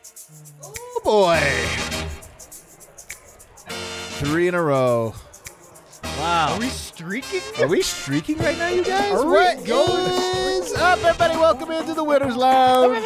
Oh, boy. 3 in a row. Wow. Are we streaking? Are we streaking right now, you guys? Are we What going is up, everybody? Welcome into the Winners Lounge.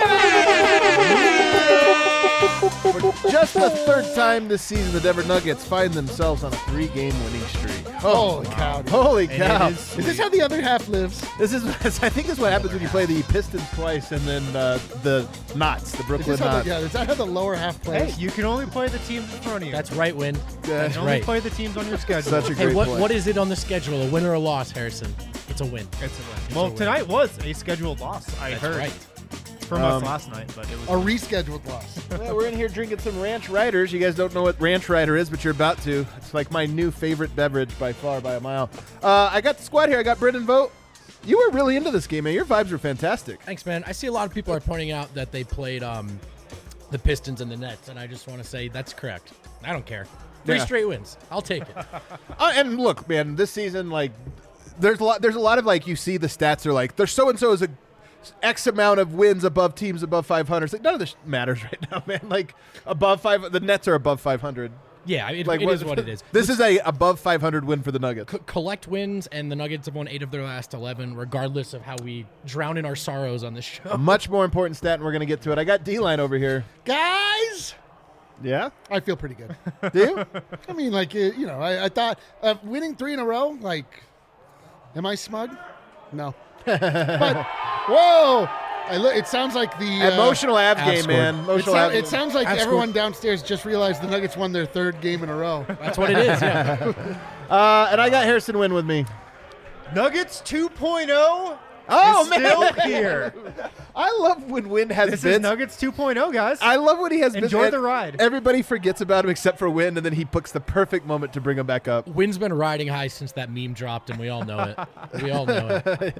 For just the third time this season, the Denver Nuggets find themselves on a 3-game winning streak. Holy cow. Holy cow. is Is this how the other half lives? This is, I think, is what happens when you play the Pistons twice and then the Knots, the Is Brooklyn this how Knots. is that how the lower half Hey, plays? you can only play the teams in front of you. That's right, Win. you only right. play the teams on your schedule. Such a Hey, great what point. what is it on the schedule? A win or a loss, Harrison? It's a win. It's a win. Well, tonight was a scheduled loss. I That's heard right. from us last night, but it was A rescheduled loss. Yeah, we're in here drinking some Ranch Riders. You guys don't know what Ranch Rider is, but you're about to. It's like my new favorite beverage by far, by a mile. I got the squad here. I got Brendan Vogt. You were really into this game, man. Your vibes were fantastic. Thanks, man. I see a lot of people are pointing out that they played the Pistons and the Nets, and I just want to say that's correct. I don't care. 3 Yeah. straight wins. I'll take it. And look, man, this season, like, there's a lot of, like, you see the stats are like, there's so-and-so is a X amount of wins above teams above 500. It's like, none of this matters right now, man. Like, above 5, the Nets are above 500. Yeah, it Like, is what it is. This is a above 500 win for the Nuggets. Collect wins, and the Nuggets have won 8 of their last 11, regardless of how we drown in our sorrows on this show. A much more important stat, and we're going to get to it. I got D-Line over here. Guys, Yeah? I feel pretty good. Do you? I mean, like, I thought winning 3 in a row, like, am I smug? No. But, whoa! It sounds like the Emotional Avs Avs game, scored. man. Emotional Avs It sounds like Avs everyone downstairs just realized the Nuggets won their 3rd game in a row. That's what it is, yeah. And I got Harrison Wynn with me. Nuggets 2.0 Oh, is man. still here. I love when Wynn has This bits. is Nuggets 2.0, guys. I love when he has bits. Enjoy the ride. Everybody forgets about him except for Wynn, and then he picks the perfect moment to bring him back up. Wynn's been riding high since that meme dropped, and we all know it. We all know it.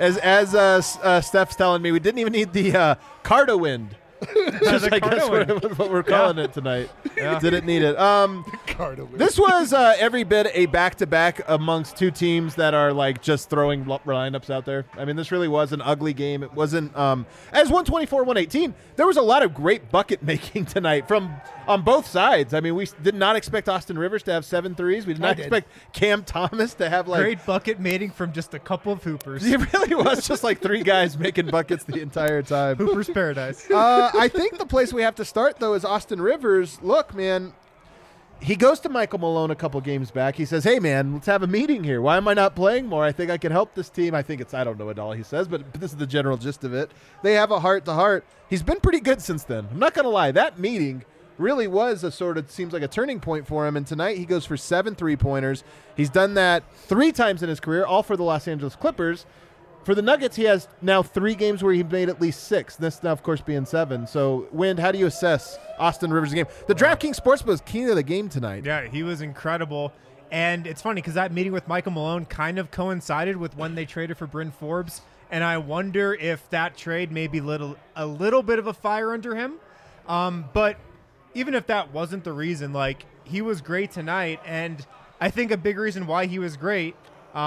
As Steph's telling me, we didn't even need the Cardo Wind. Just, I guess Cardo what we're calling it tonight. Yeah. Didn't need it. Cardo win. This was every bit a back-to-back amongst 2 teams that are like just throwing lineups out there. I mean, this really was an ugly game. It wasn't as 124-118. There was a lot of great bucket making tonight from on both sides. I mean, we did not expect Austin Rivers to have 7 threes. We did not expect Cam Thomas to have like Great bucket mating from just a couple of hoopers. It really was just like 3 guys making buckets the entire time. Hooper's paradise. I think the place we have to start, though, is Austin Rivers. Look, man, he goes to Michael Malone a couple games back. He says, hey, man, let's have a meeting here. Why am I not playing more? I think I can help this team. I don't know what all he says, but this is the general gist of it. They have a heart-to-heart. He's been pretty good since then. I'm not going to lie. That meeting really was a sort of, seems like a turning point for him. And tonight he goes for 7 3-pointers. He's done that 3 times in his career, all for the Los Angeles Clippers. For the Nuggets, he has now 3 games where he made at least 6. This now, of course, being 7. So, Wind, how do you assess Austin Rivers' game? The DraftKings Sportsbook was key to the game tonight. Yeah, he was incredible. And it's funny because that meeting with Michael Malone kind of coincided with when they traded for Bryn Forbes. And I wonder if that trade may be a little bit of a fire under him. But even if that wasn't the reason, like, he was great tonight. And I think a big reason why he was great,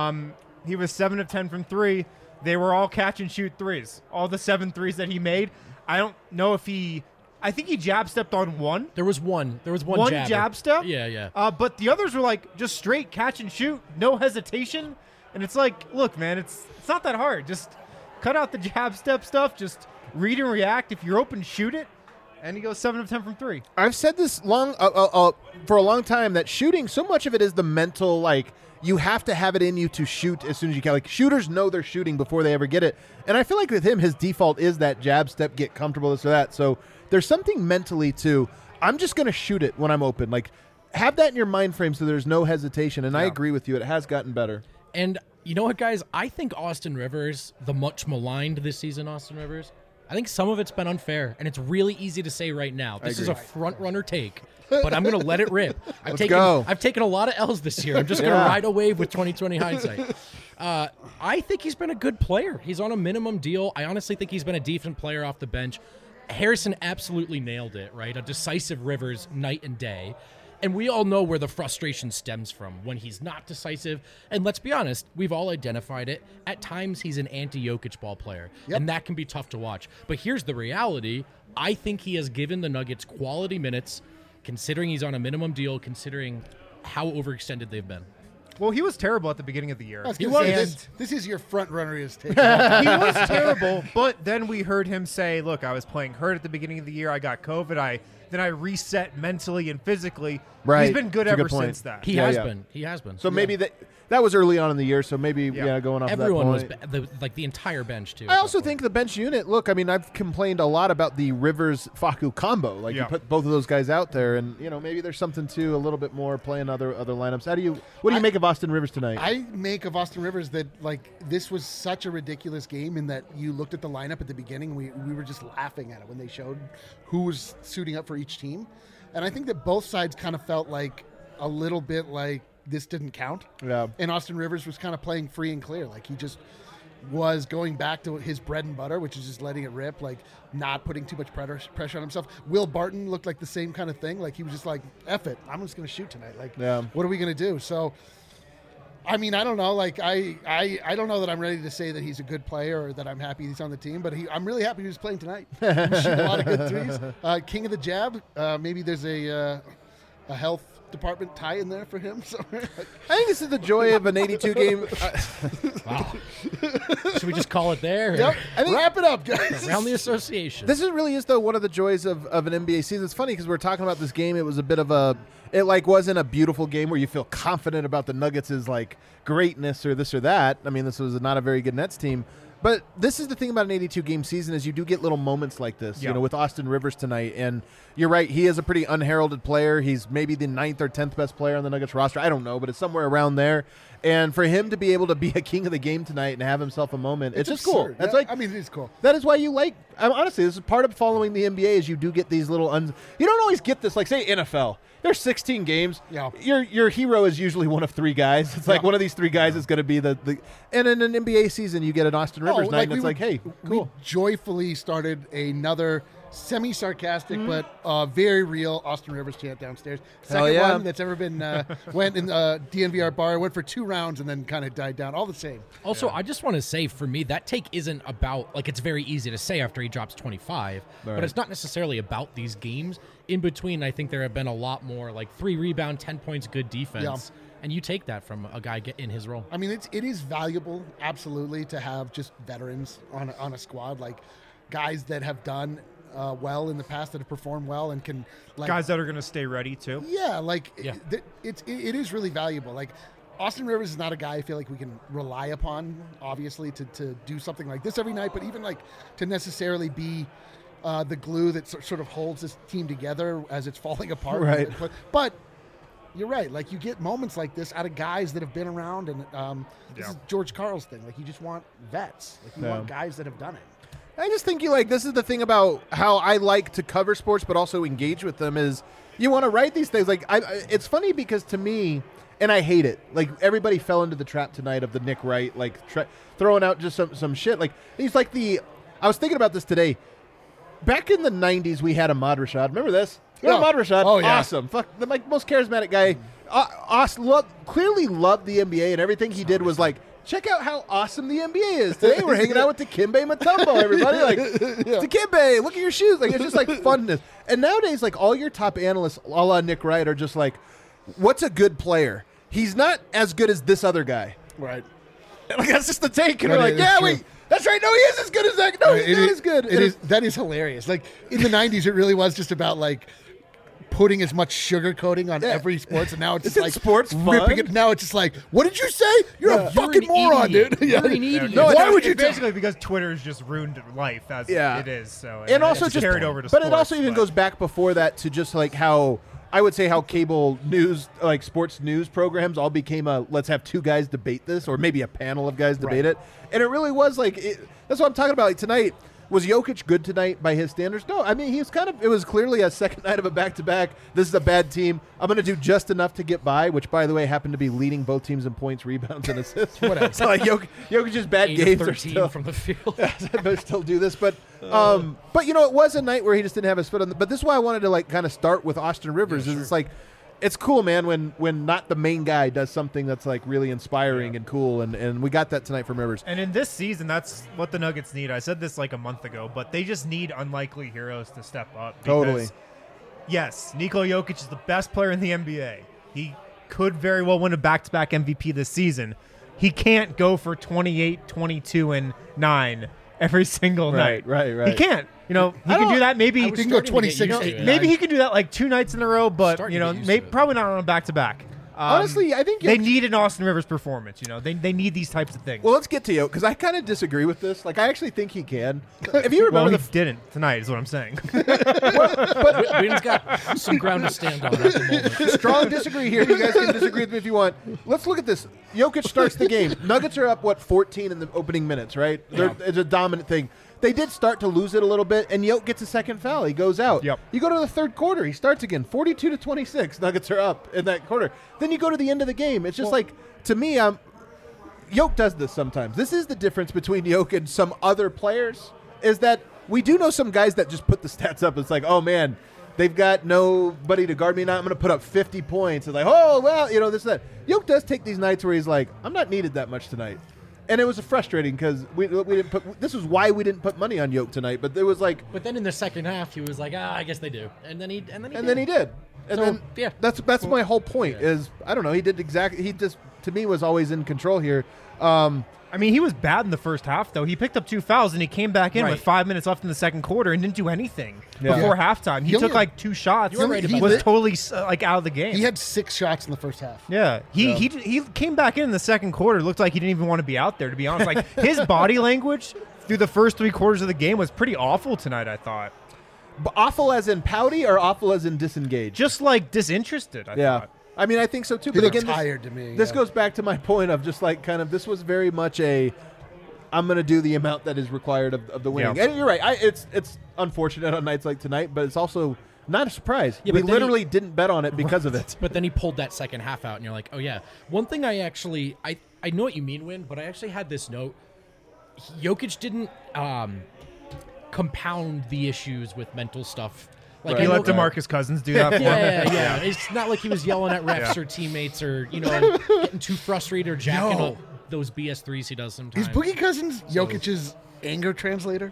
he was 7 of 10 from 3. They were all catch and shoot threes. All the 7 threes that he made. I don't know if I think he jab stepped on 1. There was one One jabber. jab step? Yeah. But the others were like just straight catch and shoot, no hesitation. And it's like, look, man, it's not that hard. Just cut out the jab step stuff. Just read and react. If you're open, shoot it. And he goes 7 of 10 from 3. I've said this for a long time that shooting, so much of it is the mental, like, you have to have it in you to shoot as soon as you can. Like, shooters know they're shooting before they ever get it. And I feel like with him, his default is that jab step, get comfortable, this or that. So there's something mentally to, I'm just going to shoot it when I'm open. Like, have that in your mind frame so there's no hesitation. And I agree with you. It has gotten better. And you know what, guys? I think Austin Rivers, the much maligned this season, Austin Rivers, I think some of it's been unfair, and it's really easy to say right now. This is a front-runner take, but I'm going to let it rip. I've taken a lot of L's this year. I'm just going to ride a wave with 2020 hindsight. I think he's been a good player. He's on a minimum deal. I honestly think he's been a decent player off the bench. Harrison absolutely nailed it, right? A decisive Rivers night and day. And we all know where the frustration stems from when he's not decisive. And let's be honest, we've all identified it. At times, he's an anti-Jokic ball player, and that can be tough to watch. But here's the reality. I think he has given the Nuggets quality minutes, considering he's on a minimum deal, considering how overextended they've been. Well, he was terrible at the beginning of the year. He was. This is your front runner is taking. He was terrible, but then we heard him say, look, I was playing hurt at the beginning of the year. I got COVID. Then I reset mentally and physically. Right. He's been good That's a ever good point. since that. He has been. He has been. So maybe that was early on in the year. So maybe going off Everyone that point. was like the entire bench too. I also think the bench unit. Look, I mean, I've complained a lot about the Rivers-Facu combo. Like you put both of those guys out there, and maybe there's something to a little bit more playing other lineups. What do you make of Austin Rivers tonight? I make of Austin Rivers that this was such a ridiculous game in that you looked at the lineup at the beginning. We were just laughing at it when they showed who was suiting up for each team, and I think that both sides kind of felt like a little bit like this didn't count. Yeah. And Austin Rivers was kind of playing free and clear. Like he just was going back to his bread and butter, which is just letting it rip, like not putting too much pressure on himself. Will Barton looked like the same kind of thing. Like he was just like, F it, I'm just going to shoot tonight. Like, what are we going to do? So, I mean, I don't know. Like I don't know that I'm ready to say that he's a good player or that I'm happy he's on the team, but I'm really happy he was playing tonight. He was shooting a lot of good threes. King of the jab. Maybe there's a health department tie in there for him somewhere. I think this is the joy of an 82 game. Wow. Should we just call it there? Yep. Wrap it up, guys. Around the association. This really is though one of the joys of an NBA season. It's funny because we're talking about this game. It was a bit of it wasn't a beautiful game where you feel confident about the Nuggets' like greatness or this or that. I mean, this was not a very good Nets team. But this is the thing about an 82-game season is you do get little moments like this, with Austin Rivers tonight. And you're right, he is a pretty unheralded player. He's maybe the 9th or 10th best player on the Nuggets roster. I don't know, but it's somewhere around there. And for him to be able to be a king of the game tonight and have himself a moment, it's just cool. That's it is cool. That is why you honestly, this is part of following the NBA is you do get these little you don't always get this, like say NFL. There's 16 games. Yeah. Your hero is usually one of 3 guys. It's like one of these 3 guys is going to be the and in an NBA season you get an Austin Rivers night and it's hey, cool. We joyfully started another semi-sarcastic but very real Austin Rivers chant downstairs. Second one that's ever been went in DNVR bar, went for 2 rounds and then kind of died down. All the same. Also, I just want to say for me, that take isn't about, like it's very easy to say after he drops 25, but it's not necessarily about these games. In between, I think there have been a lot more like 3 rebound, 10 points, good defense. And you take that from a guy in his role. I mean, it is valuable, absolutely, to have just veterans on a squad, like guys that have done well in the past, that have performed well and can guys that are going to stay ready too. Yeah, it is really valuable. Like Austin Rivers is not a guy I feel like we can rely upon, obviously, to do something like this every night, but even like to necessarily be the glue that sort of holds this team together as it's falling apart. Right. But you're right. Like you get moments like this out of guys that have been around, and this is George Karl's thing. Like you just want vets. Like you want guys that have done it. I just think this is the thing about how I like to cover sports but also engage with them is you want to write these things. Like it's funny because to me, and I hate it, like everybody fell into the trap tonight of the Nick Wright, like throwing out just some shit. Like he's like I was thinking about this today. Back in the 90s, we had Ahmad Rashad. Remember this? Ahmad Rashad. Oh, yeah. Awesome. Fuck, the most charismatic guy. Clearly loved the NBA, and everything he did was like, check out how awesome the NBA is. Today we're hanging out with Dikembe Mutombo, everybody. Like, Dikembe, look at your shoes. Like, it's just like funness. And nowadays, like, all your top analysts, a la Nick Wright, are just like, what's a good player? He's not as good as this other guy. Right. Like, that's just the take. And we're like, wait. That's right. No, he is as good as that. No, he's not as good. That is hilarious. Like in the 90s, it really was just about like putting as much sugar coating on every sports, and now it's just like sports ripping it. Now it's just like, what did you say? You're a fucking moron, dude. You're an idiot. No, why would you? Basically, because Twitter's just ruined life as it is. So and also it's just carried over to but sports, it also even goes back before that to just like how. I would say how cable news, like sports news programs, all became let's have 2 guys debate this, or maybe a panel of guys debate it. And it really was like, that's what I'm talking about. Like tonight, was Jokic good tonight by his standards? No, I mean, it was clearly a second night of a back-to-back. This is a bad team. I'm going to do just enough to get by, which, by the way, happened to be leading both teams in points, rebounds, and assists. Whatever. So like Jokic's bad games are still from the field. But still do this, but it was a night where he just didn't have his foot on. But this is why I wanted to like kind of start with Austin Rivers. It's like it's cool, man, when not the main guy does something that's like really inspiring and cool, and we got that tonight from Rivers. And in this season, that's what the Nuggets need. I said this like a month ago, but they just need unlikely heroes to step up. Totally. Yes, Nikola Jokic is the best player in the NBA. He could very well win a back-to-back MVP this season. He can't go for 28, 22, and 9 every single night. Right. He can't. He can do that maybe. He can go 26. Maybe he can do that like 2 nights in a row, but probably not on a back-to-back. Honestly, I think they need an Austin Rivers performance. They need these types of things. Well, let's get to Jokic, because I kind of disagree with this. Like, I actually think he can. If you remember, he didn't tonight, is what I'm saying. Wayne's got some ground to stand on at the moment. Strong disagree here. You guys can disagree with me if you want. Let's look at this. Jokic starts the game. Nuggets are up 14 in the opening minutes, right? Yeah. It's a dominant thing. They did start to lose it a little bit, and Jokic gets a second foul. He goes out. Yep. You go to the third quarter. He starts again. 42-26. Nuggets are up in that quarter. Then you go to the end of the game. It's just to me, Jokic does this sometimes. This is the difference between Jokic and some other players, is that we do know some guys that just put the stats up. It's like, oh, man, they've got nobody to guard me now. I'm going to put up 50 points. It's like, oh, well, this and that. Jokic does take these nights where he's like, I'm not needed that much tonight. And it was frustrating because we didn't put. This is why we didn't put money on Jokic tonight. But there was like. But then in the second half, he was like, I guess they do, and then he did. And then that's my whole point. Is I don't know. He did exactly. He just to me was always in control here. I mean, he was bad in the first half, though. He picked up 2 fouls, and he came back in with 5 minutes left in the second quarter and didn't do anything before halftime. He took like 2 shots. You're right about was that. totally out of the game. He had 6 shots in the first half. Yeah, he came back in the second quarter. Looked like he didn't even want to be out there, to be honest. Like his body language through the first 3 quarters of the game was pretty awful tonight, I thought. But awful as in pouty or awful as in disengaged? Just like disinterested, I thought. I mean, I think so too. He But looked again, tired to me. This goes back to my point of just like kind of this was very much I'm going to do the amount that is required of the winning. Yeah. And you're right. It's unfortunate on nights like tonight, but it's also not a surprise. Yeah, we but then literally didn't bet on it because of it. But then he pulled that second half out, and you're like, oh, yeah. One thing I know what you mean, Win, but I actually had this note. Jokic didn't compound the issues with mental stuff. Like He I let know- DeMarcus Cousins do that for him. Yeah. It's not like he was yelling at refs or teammates or, getting too frustrated or jacking up those BS threes he does sometimes. Is Boogie Cousins Jokic's anger translator?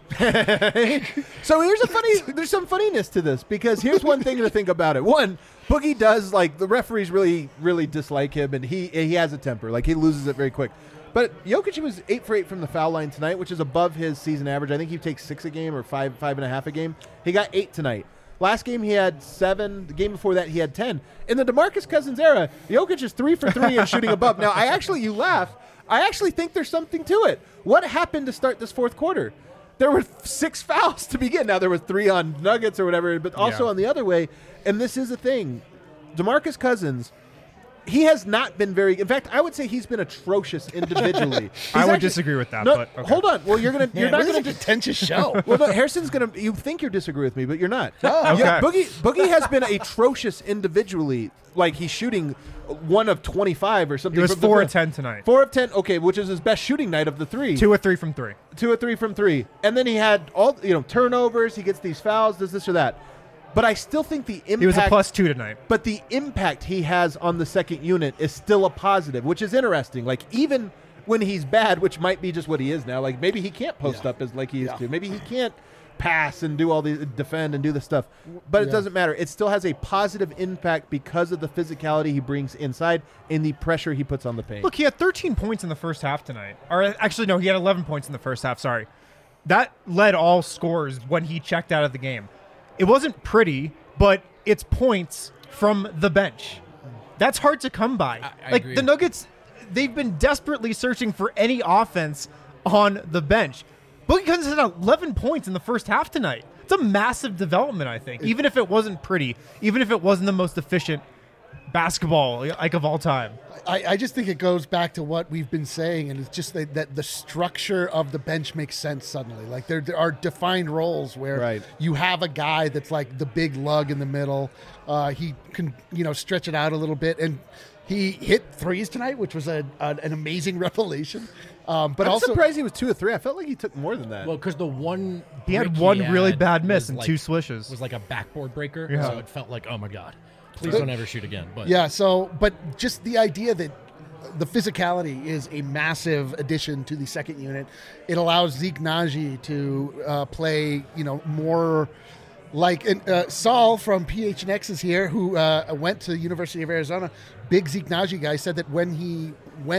So there's some funniness to this because here's one thing to think about it. One, Boogie does the referees really, really dislike him, and he has a temper. Like he loses it very quick. But Jokic was 8 for 8 from the foul line tonight, which is above his season average. I think he takes 6 a game or 5.5 a game. He got 8 tonight. Last game he had 7. The game before that he had 10. In the DeMarcus Cousins era, Jokic is 3 for 3 and shooting above. Now you laugh. I actually think there's something to it. What happened to start this fourth quarter? There were 6 fouls to begin. Now there was 3 on Nuggets or whatever, but also on the other way. And this is the thing. DeMarcus Cousins, he has not been very. In fact, I would say he's been atrocious individually. I would disagree with that. No, but okay. hold on. Well, you're not This going is a to. contentious show. Well, no, Harrison's going to. You think you disagree with me, but you're not. Okay. Yeah, Boogie has been atrocious individually. Like he's shooting 1 of 25 or something. He was from the 4 field. of 10 tonight. 4 of 10. Okay, which is his best shooting night of the 3. 2 of 3 from 3. 2 of 3 from 3. And then he had all turnovers. He gets these fouls. Does this or that. But I still think the impact. He was a +2 tonight. But the impact he has on the second unit is still a positive, which is interesting. Like even when he's bad, which might be just what he is now. Like maybe he can't post up as like he used to. Maybe he can't pass and do all these defend and do the stuff. But it doesn't matter. It still has a positive impact because of the physicality he brings inside and the pressure he puts on the paint. Look, he had 13 points in the first half tonight. Or actually, no, he had 11 points in the first half. Sorry. That led all scores when he checked out of the game. It wasn't pretty, but it's points from the bench. That's hard to come by. I like agree. the Nuggets, they've been desperately searching for any offense on the bench. Boogie Cousins had 11 points in the first half tonight. It's a massive development, I think. Even if it wasn't pretty, even if it wasn't the most efficient basketball of all time. I just think it goes back to what we've been saying, and it's just that the structure of the bench makes sense suddenly. Like there are defined roles where you have a guy that's like the big lug in the middle. He can stretch it out a little bit, and he hit threes tonight, which was an amazing revelation. But I'm also surprised he was 2 of 3. I felt like he took more than that. Well, because the one He had break one really bad miss was and like- 2 swishes. was like a backboard breaker, Yeah. so it felt like, oh my god. Please don't ever shoot again. But Yeah, so, but just the idea that the physicality is a massive addition to the second unit. It allows Zeke Naji to play, more like Saul from PHNX is here, who went to the University of Arizona. Big Zeke Naji guy said that when he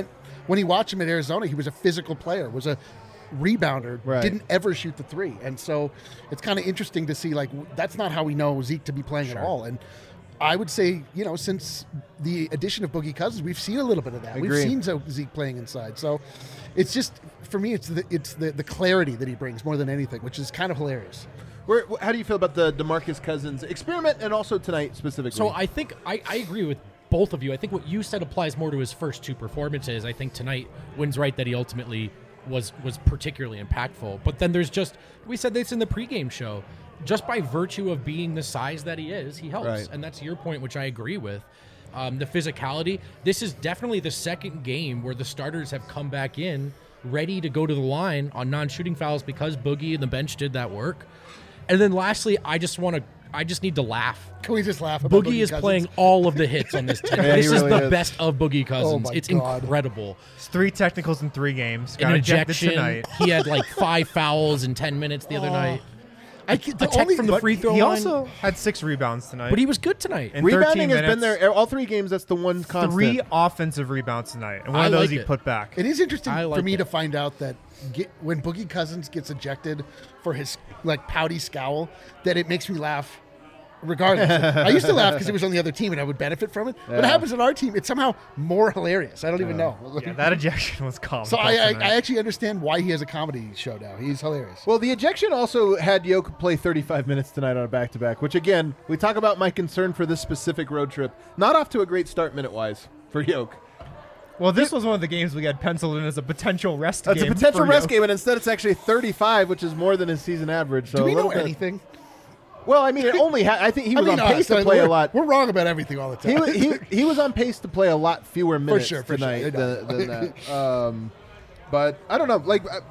watched him at Arizona, he was a physical player, was a rebounder, Right. didn't ever shoot the three. And so it's kind of interesting to see, like, that's not how we know Zeke to be playing at all. And I would say, since the addition of Boogie Cousins, we've seen a little bit of that. We've seen Zeke playing inside. So it's just, for me, it's the clarity that he brings more than anything, which is kind of hilarious. How do you feel about the DeMarcus Cousins experiment and also tonight specifically? So I think I agree with both of you. I think what you said applies more to his first two performances. I think tonight Wynn's right that he ultimately was particularly impactful. But then there's we said this in the pregame show, just by virtue of being the size that he is, he helps. Right. And that's your point, which I agree with. The physicality, this is definitely the second game where the starters have come back in ready to go to the line on non-shooting fouls because Boogie and the bench did that work. And then lastly, I just need to laugh. Can we just laugh about Boogie is Cousins? playing all of the hits on this team. Yeah, he This really is the is. best of Boogie Cousins. my It's God. incredible. It's 3 technicals in 3 games. An Got ejected ejection. tonight. He had like 5 fouls in 10 minutes the other night. The A tech only- from the But free throw he line. also had 6 rebounds tonight. But he was good tonight. In rebounding 13 has been minutes, there all 3 games. That's the one constant. 3 offensive rebounds tonight, and one I of those like he it. put back. It is interesting I for like me it. to find out that when Boogie Cousins gets ejected for his pouty scowl, that it makes me laugh. Regardless, I used to laugh because it was on the other team and I would benefit from it. When it Yeah. happens on our team, it's somehow more hilarious. I don't even know. Yeah, that ejection was comical. So I tonight. actually understand why he has a comedy show now. He's hilarious. Well, the ejection also had Yoke play 35 minutes tonight on a back-to-back, which, again, we talk about my concern for this specific road trip. Not off to a great start minute-wise for Yoke. Well, this was one of the games we had penciled in as a potential rest It's a game. potential for rest Yoke. game, and instead it's actually 35, which is more than his season average. So Do we a know little bit- anything? Well, I mean, it only I think he was on pace to us, play a we're- lot. We're wrong about everything all the time. He was on pace to play a lot fewer minutes sure. tonight than that. But I don't know.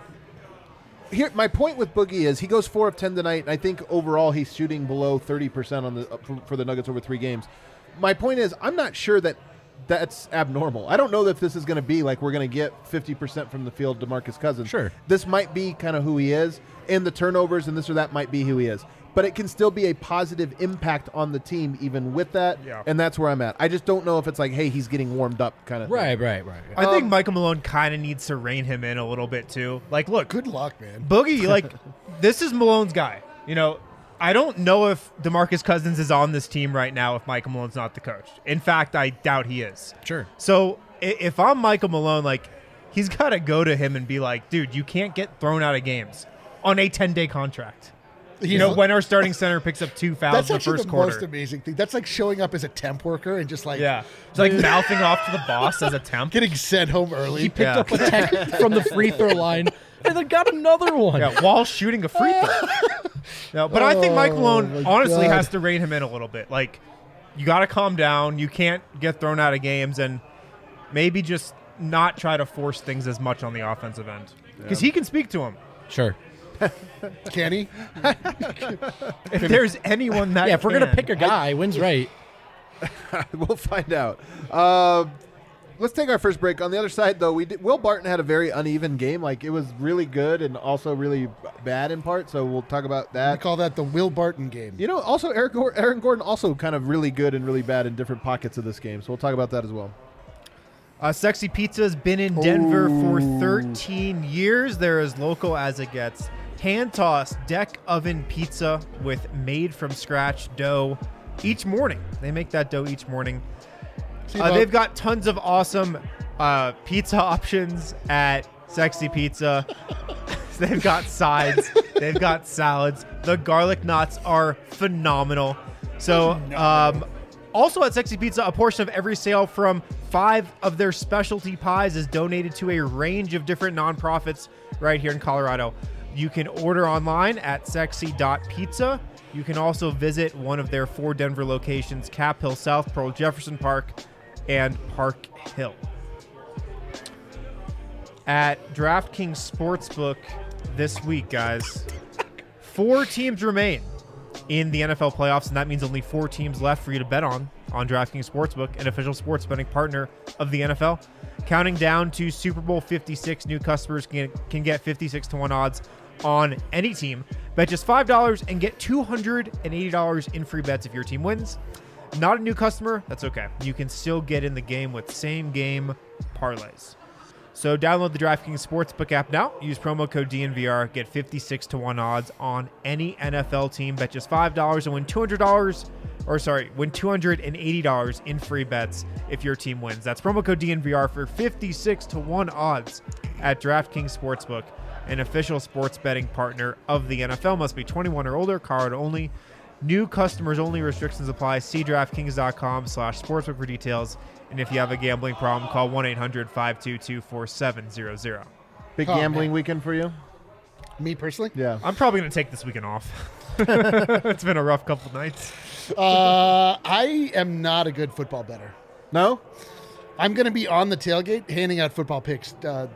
Here, my point with Boogie is he goes 4 of 10 tonight. And I think overall he's shooting below 30% on for the Nuggets over 3 games. My point is I'm not sure that that's abnormal. I don't know that this is going to be like we're going to get 50% from the field DeMarcus Cousins. Sure. This might be kind of who he is, and the turnovers and this or that might be who he is. But it can still be a positive impact on the team even with that, Yeah. and that's where I'm at. I just don't know if it's like, hey, he's getting warmed up kind of thing. Right. I think Michael Malone kind of needs to rein him in a little bit too. Like, look, Good luck, man. Boogie, this is Malone's guy. I don't know if DeMarcus Cousins is on this team right now if Michael Malone's not the coach. In fact, I doubt he is. Sure. So if I'm Michael Malone, he's got to go to him and be like, dude, you can't get thrown out of games on a 10-day contract. When our starting center picks up 2 fouls That's in the actually first the quarter. most amazing thing. That's like showing up as a temp worker and just Yeah. It's mouthing off to the boss as a temp. getting sent home early. He picked up a tech from the free throw line and then got another one. Yeah, while shooting a free throw. No, but I think Mike Malone my honestly God. has to rein him in a little bit. You got to calm down. You can't get thrown out of games, and maybe just not try to force things as much on the offensive end because he can speak to him. Sure. Can he? If there's anyone that Yeah, if we're going to can. pick a guy, Wynn's right. We'll find out. Let's take our first break. On the other side, though, Will Barton had a very uneven game. It was really good and also really bad in part, so we'll talk about I that. call that the Will Barton game. Also, Aaron Gordon also kind of really good and really bad in different pockets of this game, so we'll talk about that as well. Sexy Pizza has been in Denver for 13 years. They're as local as it gets. Hand-tossed deck oven pizza with made-from-scratch dough each morning. They make that dough each morning. They've got tons of awesome pizza options at Sexy Pizza. They've got sides. They've got salads. The garlic knots are phenomenal. So also at Sexy Pizza, a portion of every sale from 5 of their specialty pies is donated to a range of different nonprofits right here in Colorado. You can order online at sexy.pizza. You can also visit one of their 4 Denver locations, Cap Hill South, Pearl Jefferson Park, and Park Hill. At DraftKings Sportsbook this week, guys, 4 teams remain in the NFL playoffs, and that means only 4 teams left for you to bet on. on DraftKings Sportsbook, an official sports betting partner of the NFL. Counting down to Super Bowl 56, new customers can get 56 to 1 odds on any team. Bet just $5 and get $280 in free bets if your team wins. Not a new customer? That's okay. You can still get in the game with same game parlays. So download the DraftKings Sportsbook app now. Use promo code DNVR. Get 56 to 1 odds on any NFL team. Bet just $5 and win win $280 in free bets if your team wins. That's promo code DNVR for 56 to 1 odds at DraftKings Sportsbook, an official sports betting partner of the NFL. Must be 21 or older. Card only. New customers only. Restrictions apply. See DraftKings.com/sportsbook for details. And if you have a gambling problem, call 1-800-522-4700. Big gambling weekend for you? Me personally? Yeah. I'm probably going to take this weekend off. It's been a rough couple nights. I am not a good football bettor. No? I'm going to be on the tailgate handing out football picks. So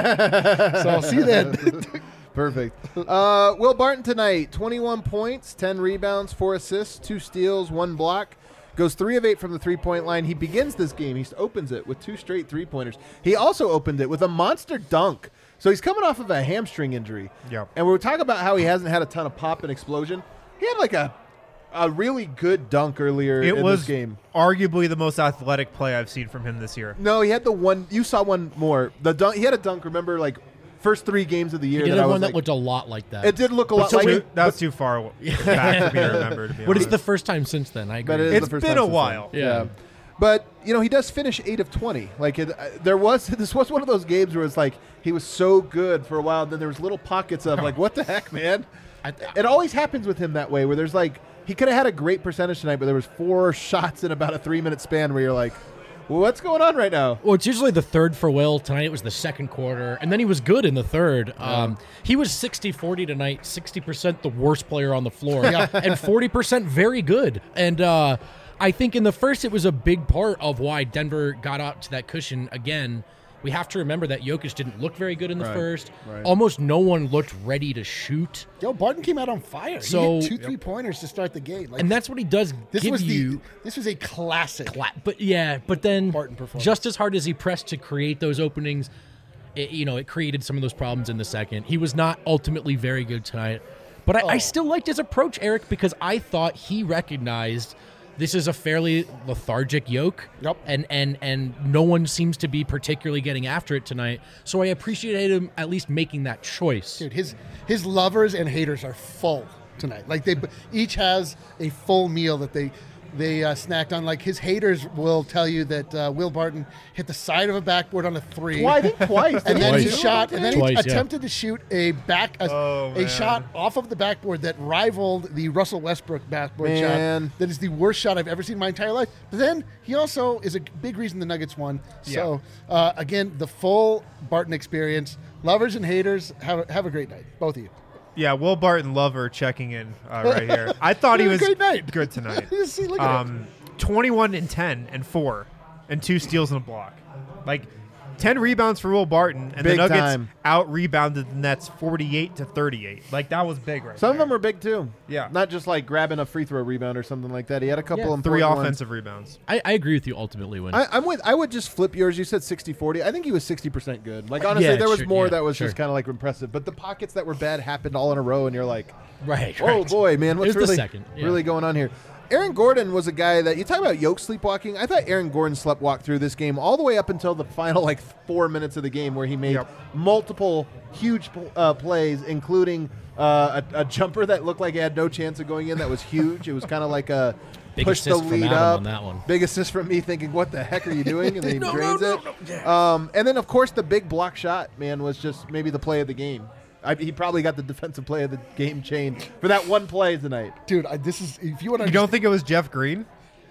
I'll see you then. Perfect. Will Barton tonight, 21 points, 10 rebounds, 4 assists, 2 steals, 1 block. Goes 3 of 8 from the three-point line. He begins this game. He opens it with 2 straight three-pointers. He also opened it with a monster dunk. So he's coming off of a hamstring injury. Yep. And we were talking about how he hasn't had a ton of pop and explosion. He had like a really good dunk earlier in this game. Arguably the most athletic play I've seen from him this year. No, he had the one. You saw one more. The dunk. He had a dunk. Remember, like first 3 games of the year. He did that have I was one that like, looked a lot like that. It did look a lot like it. That's too far back for me to remember. To be But honest. it's the first time since then. I agree. But it is It's the first been time a since while. then. Yeah. But he does finish 8 of 20. Like this was one of those games where it's like he was so good for a while, then there was little pockets of like, what the heck, man? It always happens with him that way, where there's like he could have had a great percentage tonight, but there was 4 shots in about a 3-minute span where you're like, well, what's going on right now? Well, it's usually the third for Will. Tonight it was the second quarter, and then he was good in the third. He was 60-40 tonight, 60% the worst player on the floor, and 40% very good. And I think in the first it was a big part of why Denver got out to that cushion again. We have to remember that Jokic didn't look very good in the first. Right. Almost no one looked ready to shoot. Yo, Barton came out on fire. So- he hit 2 3-pointers to start the game. Like, And that's what he does this give was you. this was a classic. But then Barton performance. just as hard as he pressed to create those openings, it created some of those problems in the second. He was not ultimately very good tonight. But I still liked his approach, Eric, because I thought he recognized this is a fairly lethargic yoke. Yep. And no one seems to be particularly getting after it tonight. So I appreciated him at least making that choice. Dude, his lovers and haters are full tonight. Like they each has a full meal that they snacked on. Like his haters will tell you that Will Barton hit the side of a backboard on a 3. Well, I think twice. And then he Twice. shot, and then Twice, he yeah. attempted to shoot a shot off of the backboard that rivaled the Russell Westbrook backboard Man. shot. That is the worst shot I've ever seen in my entire life. But then he also is a big reason the Nuggets won. So again, the full Barton experience. Lovers and haters, have a great night, both of you. Yeah, Will Barton lover checking in right here. I thought he was Great night. good tonight. See, look at it. 21 and 10 and 4 and 2 steals and a block. Like 10 rebounds for Will Barton, and Big the Nuggets time. out-rebounded the Nets 48-38. Like that was big right Some of there. them are big too. Yeah. Not just like grabbing a free throw rebound or something like that. He had a couple of 3 important ones. offensive rebounds. I agree with you ultimately, Win. I would just flip yours. You said 60-40. I think he was 60% good. Like honestly, Yeah, there was sure, more yeah, that was sure. just kind of like impressive. But the pockets that were bad happened all in a row, and you're like, right. oh boy, man, what's It was the really second, yeah. really going on here? Aaron Gordon was a guy that you talk about yoke sleepwalking. I thought Aaron Gordon sleptwalked through this game all the way up until the final 4 minutes of the game, where he made multiple huge plays, including a jumper that looked like it had no chance of going in. That was huge. It was kind of like a Big push the assist from lead Adam up. on that one. Big assist from me, thinking, "What the heck are you doing?" And then he No, drains no, it. no, no. And then of course the big block shot, man, was just maybe the play of the game. He probably got the defensive play of the game chain for that one play tonight. Dude, this is if you want to. You don't think it was Jeff Green?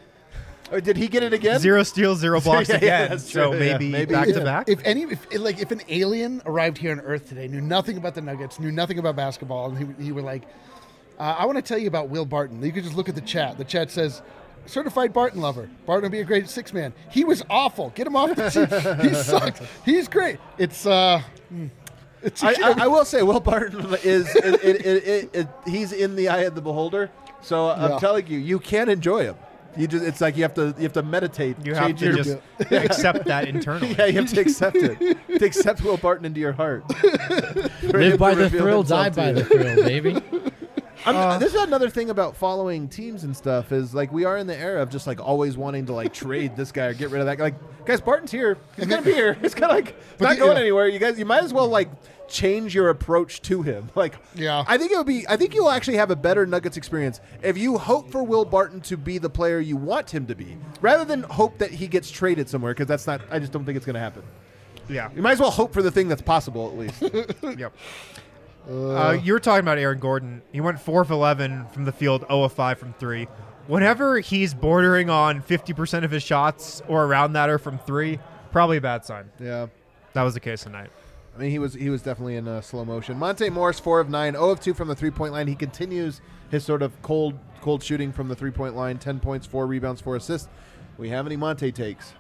Or did he get it again? 0 steals, 0 blocks Yeah, again. that's So true, yeah. maybe Maybe, back yeah. to back. If an alien arrived here on Earth today, knew nothing about the Nuggets, knew nothing about basketball, and he were like, I want to tell you about Will Barton. You could just look at the chat. The chat says, certified Barton lover. Barton would be a great 6-man. He was awful. Get him off the team. He sucked. He's great. It's I will say Will Barton is he's in the eye of the beholder. So I'm telling you, you can enjoy him. It's like you have to meditate. You have change to your- just accept that internally. Yeah, you have to accept it. To accept Will Barton into your heart. Live by the thrill, die by the thrill, baby. This is another thing about following teams and stuff is like we are in the era of just like always wanting to like trade this guy or get rid of that guy. Like, guys, Barton's here. He's gonna be here. It's kind of like not going anywhere. You might as well like change your approach to him. Like, Yeah. I think you'll actually have a better Nuggets experience if you hope for Will Barton to be the player you want him to be, rather than hope that he gets traded somewhere. Because that's not. I just don't think it's gonna happen. Yeah. You might as well hope for the thing that's possible at least. Yep. You were talking about Aaron Gordon. He went 4 of 11 from the field, 0 of 5 from 3. Whenever he's bordering on 50% of his shots or around that are from 3, probably a bad sign. Yeah. That was the case tonight. I mean, he was definitely in slow motion. Monte Morris, 4 of 9, 0 of 2 from the three-point line. He continues his sort of cold shooting from the three-point line. 10 points, 4 rebounds, 4 assists. We have any Monte takes?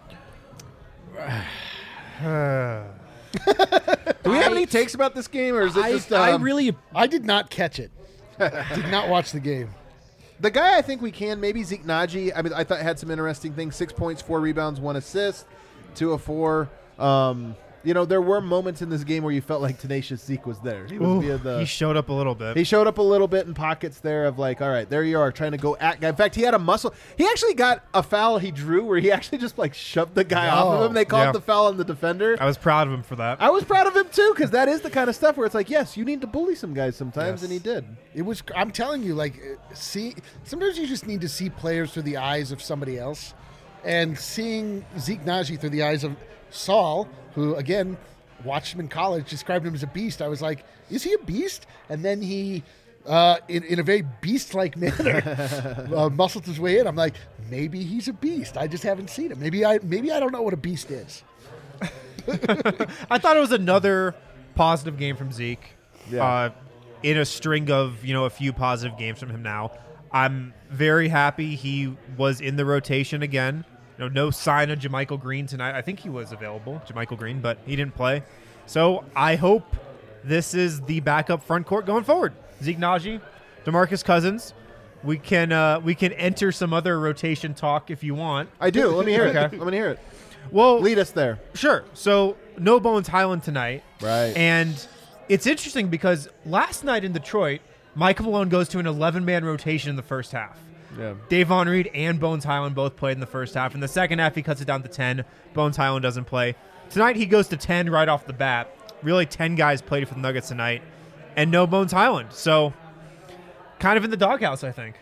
Do we have any takes about this game, or is it just? I did not catch it. Did not watch the game. The guy I think we can, maybe Zeke Naji. I mean, I thought had some interesting things. 6 points, 4 rebounds, 1 assist, 2 of 4. There were moments in this game where you felt like Tenacious Zeke was there. He was He showed up a little bit. He showed up a little bit in pockets there of like, all right, there you are, trying to go at guy. In fact, he had a muscle. He actually got a foul he drew where he actually just like shoved the guy off of him. They called the foul on the defender. I was proud of him for that. I was proud of him too, because that is the kind of stuff where it's like, yes, you need to bully some guys sometimes, and he did. It was. I'm telling you, like, sometimes you just need to see players through the eyes of somebody else, and seeing Zeke Naji through the eyes of Saul, who again watched him in college, described him as a beast. I was like, is he a beast? And then he, in a very beast-like manner, muscled his way in. I'm like, maybe he's a beast. I just haven't seen him. Maybe I don't know what a beast is. I thought it was another positive game from Zeke. Yeah. In a string of a few positive games from him now. I'm very happy he was in the rotation again. No sign of JaMychal Green tonight. I think he was available, JaMychal Green, but he didn't play. So I hope this is the backup front court going forward. Zeke Naji, DeMarcus Cousins. We can enter some other rotation talk if you want. I do. Let me hear it. Okay. Let me hear it. Well, Lead us there. Sure. So no Bones Highland tonight. Right. And it's interesting because last night in Detroit, Michael Malone goes to an 11-man rotation in the first half. Yeah. Dave Von Reed and Bones Highland both played in the first half. In the second half, he cuts it down to 10. Bones Highland doesn't play. Tonight, he goes to 10 right off the bat. Really, 10 guys played for the Nuggets tonight, and no Bones Highland. So, kind of in the doghouse, I think.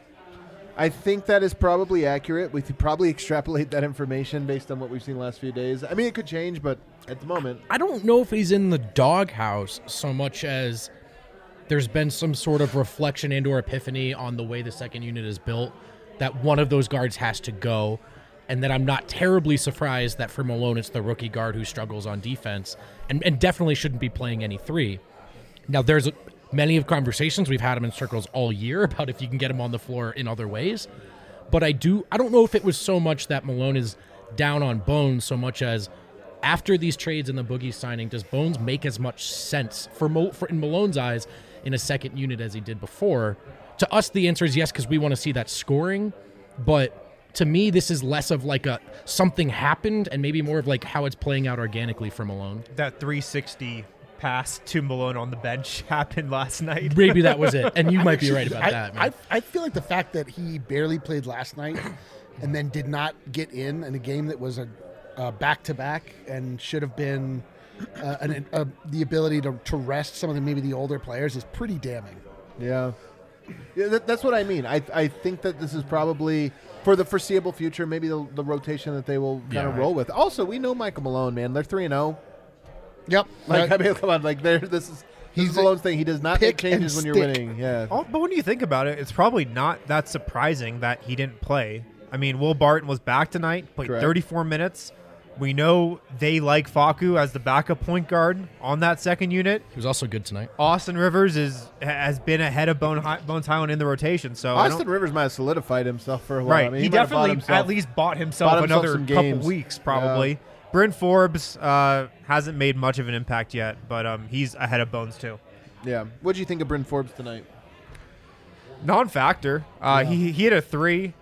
I think that is probably accurate. We could probably extrapolate that information based on what we've seen the last few days. I mean, it could change, but at the moment. I don't know if he's in the doghouse so much as there's been some sort of reflection and or epiphany on the way the second unit is built that one of those guards has to go, and that I'm not terribly surprised that for Malone it's the rookie guard who struggles on defense and definitely shouldn't be playing any 3. Now, there's many of conversations we've had him in circles all year about if you can get him on the floor in other ways, but I don't know if it was so much that Malone is down on Bones so much as after these trades and the Boogie signing, does Bones make as much sense for in Malone's eyes in a second unit as he did before? To us, the answer is yes, because we want to see that scoring. But to me, this is less of like a something happened and maybe more of like how it's playing out organically for Malone. That 360 pass to Malone on the bench happened last night. Maybe that was it. And you might be right about that, man. I feel like the fact that he barely played last night and then did not get in a game that was a back-to-back and should have been the ability to rest some of maybe the older players is pretty damning. Yeah, that's what I mean. I think that this is probably for the foreseeable future, maybe the rotation that they will kind of roll with. Also, we know Michael Malone, man. They're 3-0. Yep. Like, I mean, come on. Like, this is Malone's thing. He does not make changes when you're winning. Yeah. But when you think about it, it's probably not that surprising that he didn't play. I mean, Will Barton was back tonight, played 34 minutes. We know they like Facu as the backup point guard on that second unit. He was also good tonight. Austin Rivers has been ahead of Bones Highland in the rotation. So Austin Rivers might have solidified himself for a while. Right. I mean, he definitely at least bought himself another couple weeks, probably. Yeah. Bryn Forbes hasn't made much of an impact yet, but he's ahead of Bones too. Yeah. What did you think of Bryn Forbes tonight? Non-factor. He hit a 3.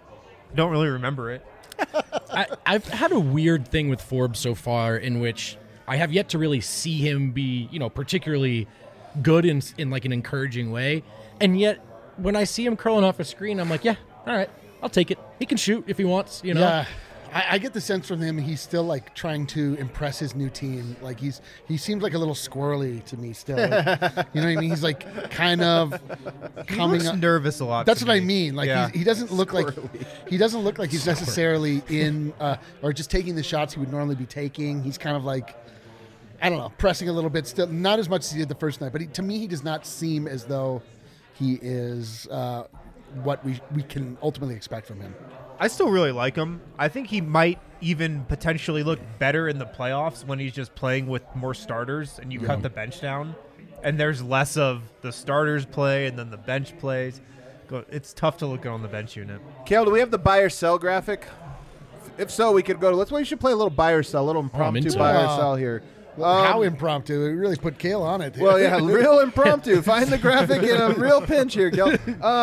Don't really remember it. I've had a weird thing with Forbes so far in which I have yet to really see him be, particularly good in like an encouraging way. And yet when I see him curling off a screen, I'm like, yeah, all right, I'll take it. He can shoot if he wants, Yeah. I get the sense from him he's still like trying to impress his new team. Like he seems like a little squirrely to me still. Like, you know what I mean? He's like kind of He coming looks up. nervous a lot. That's to what I me. mean. Like Yeah. he doesn't look like he's necessarily in or just taking the shots he would normally be taking. He's kind of like, I don't know, pressing a little bit still, not as much as he did the first night. But to me, he does not seem as though he is what we can ultimately expect from him. I still really like him. I think he might even potentially look better in the playoffs when he's just playing with more starters and you cut the bench down and there's less of the starters play and then the bench plays. It's tough to look good on the bench unit. Kale, do we have the buy or sell graphic? If so, we could go to. We should play a little buy or sell, a little impromptu buy or sell here. How impromptu. It really put Kale on it. Well, yeah, real impromptu. Find the graphic in a real pinch here, Kale.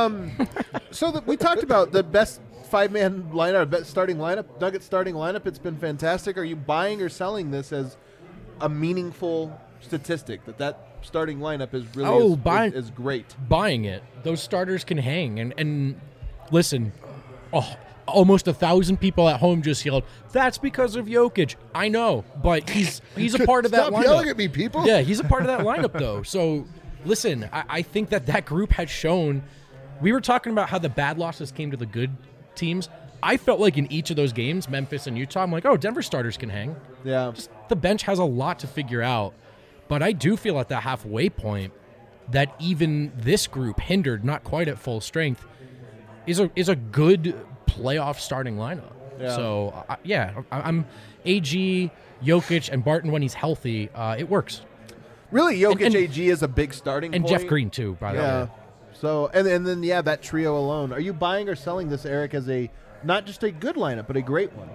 So we talked about the best five-man lineup, best starting lineup, Nuggets starting lineup. It's been fantastic. Are you buying or selling this as a meaningful statistic that starting lineup is really is great? Buying it. Those starters can hang. And listen, almost 1,000 people at home just yelled, "That's because of Jokic." I know, but he's a part of that Stop lineup. yelling at me, people. Yeah, he's a part of that lineup, though. So, listen, I think that group has shown. We were talking about how the bad losses came to the good teams. I felt like in each of those games, Memphis and Utah, I'm like, oh, Denver starters can hang. Yeah. Just the bench has a lot to figure out. But I do feel at the halfway point that even this group, hindered, not quite at full strength, is a good playoff starting lineup. Yeah. So, I'm AG, Jokic, and Barton when he's healthy. It works. Really, Jokic And- AG is a big starting And point. Jeff Green, too, by the Yeah. way. So, and then, that trio alone. Are you buying or selling this, Eric, as not just a good lineup, but a great one?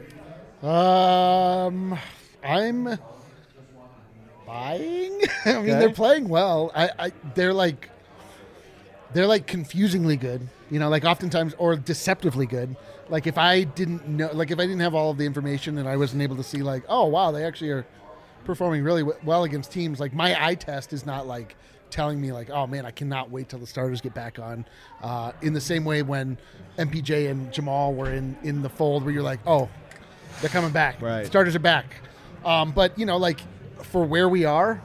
I'm buying. I mean, Okay. they're playing well. They're like confusingly good. Like oftentimes or deceptively good. Like if I didn't know, like if I didn't have all of the information and I wasn't able to see, like, oh wow, they actually are performing really well against teams. Like my eye test is not like telling me like, oh man, I cannot wait till the starters get back on. In the same way when MPJ and Jamal were in the fold, where you're like, oh, they're coming back. Right. Starters are back. But like for where we are,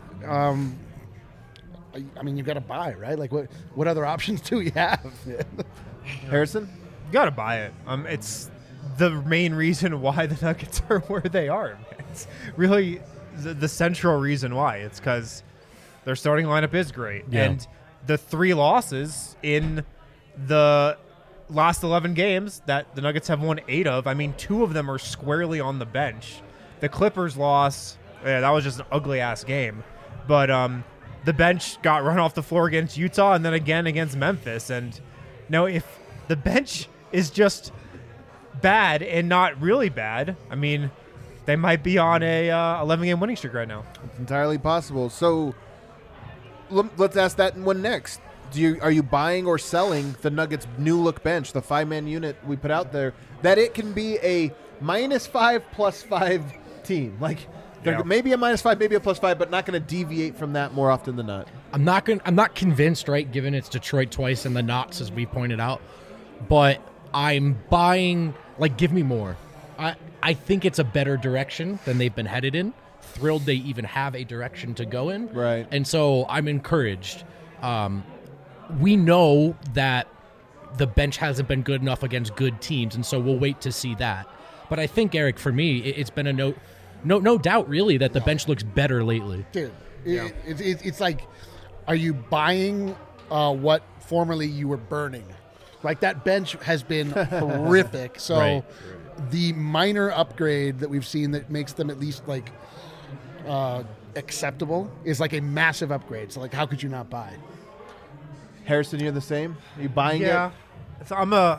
I mean, you've got to buy, right? Like what other options do we have? Harrison? You got to buy it. It's the main reason why the Nuggets are where they are. It's really the central reason why. It's because their starting lineup is great. Yeah. And the 3 losses in the last 11 games that the Nuggets have won 8 of, I mean, 2 of them are squarely on the bench. The Clippers loss, that was just an ugly-ass game. But the bench got run off the floor against Utah and then again against Memphis. And now if the bench is just bad and not really bad, I mean, they might be on a 11-game winning streak right now. It's entirely possible. So let's ask that one next. Are you buying or selling the Nuggets' new look bench, the 5-man unit we put out there, that it can be a -5 +5 team? Like maybe a -5, maybe a +5, but not going to deviate from that more often than not. I'm not convinced, right, given it's Detroit twice and the Knots, as we pointed out. But I'm buying, like, give me more. I think it's a better direction than they've been headed in. Thrilled they even have a direction to go in. Right. And so I'm encouraged. We know that the bench hasn't been good enough against good teams, and so we'll wait to see that. But I think, Eric, for me, it's been a no doubt, really, that the bench looks better lately. Dude, it's like, are you buying what formerly you were burning? Like that bench has been horrific. So Right. the minor upgrade that we've seen that makes them at least like acceptable is like a massive upgrade. So like, how could you not buy? Harrison, you're the same? Are you buying it? So I'm a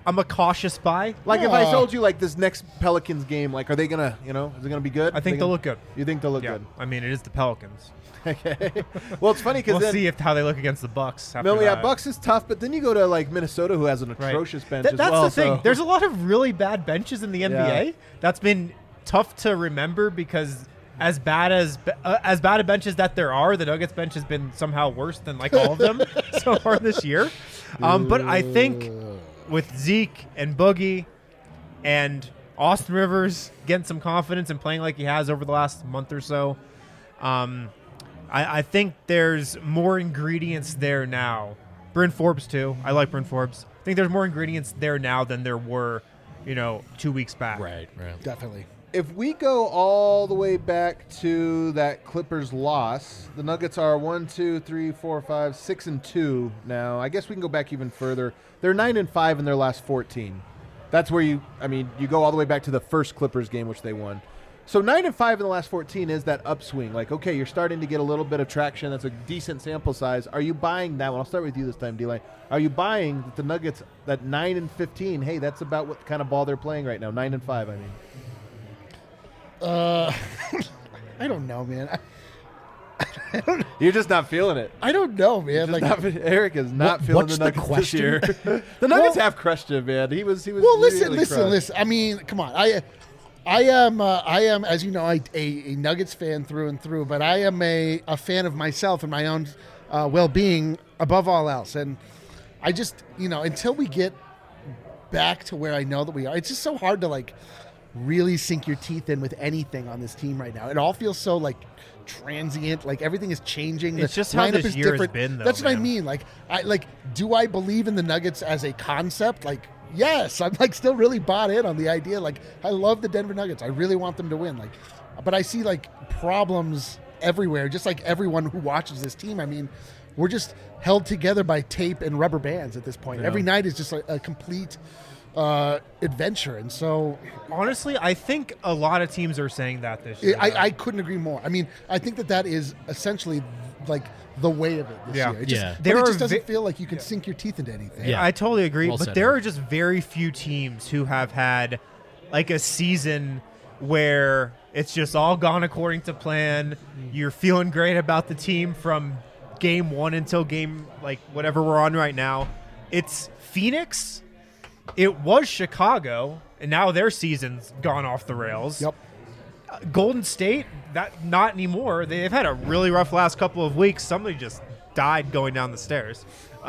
I'm a cautious buy. Like if I told you like this next Pelicans game, like are they gonna, is it gonna be good? I think they'll look good. You think they'll look Yeah, good? I mean, it is the Pelicans. Okay. Well, it's funny because We'll see how they look against the Bucks. Bucks is tough, but then you go to like Minnesota, who has an atrocious bench as That's well. the thing. so- There's a lot of really bad benches in the NBA. That's been tough to remember because as bad a bench as that there are, the Nuggets bench has been somehow worse than like all of them so far this year. But I think with Zeke and Boogie and Austin Rivers getting some confidence and playing like he has over the last month or so, I think there's more ingredients there now. Bryn Forbes too. I like Bryn Forbes. I think there's more ingredients there now than there were, 2 weeks back. Right. Definitely. If we go all the way back to that Clippers loss, the Nuggets are 6-2 now. I guess we can go back even further. They're 9-5 in their last 14. That's where you go all the way back to the first Clippers game, which they won. So 9-5 in the last 14 is that upswing. Like, okay, you're starting to get a little bit of traction. That's a decent sample size. Are you buying that one? I'll start with you this time, D-Line. Are you buying that the Nuggets, that 9-15, hey, that's about what kind of ball they're playing right now, 9-5, I mean. I don't know, man. You're just not feeling it. I don't know, man. Like, Eric is not feeling what's the the Nuggets question? this year. The Nuggets have crushed him, man. He was. well, listen. really crushed. I mean, come on. I am, as you know, a Nuggets fan through and through. But I am a fan of myself and my own well-being above all else. And I just, until we get back to where I know that we are, it's just so hard to like really sink your teeth in with anything on this team right now. It all feels so like transient, like everything is changing. It's the just how lineup this is year has different. been, though, That's what I man. mean. Like, do I believe in the Nuggets as a concept? Like, yes, I'm like still really bought in on the idea. Like, I love the Denver Nuggets. I really want them to win. Like, but I see like problems everywhere, just like everyone who watches this team. I mean, we're just held together by tape and rubber bands at this point. Every night is just like a complete adventure. And so Honestly, I think a lot of teams are saying that this year. I couldn't agree more. I mean, I think that is essentially like the way of it this Yeah. year. It just, Yeah. but There it are just doesn't feel like you can sink your teeth into anything. Yeah. I totally agree. Well But said, there Eric. are just very few teams who have had like a season where it's just all gone according to plan. You're feeling great about the team from game one until game like whatever we're on right now. It's Phoenix. It was Chicago, and now their season's gone off the rails. Yep. Golden State, that not anymore. They've had a really rough last couple of weeks. Somebody just died going down the stairs.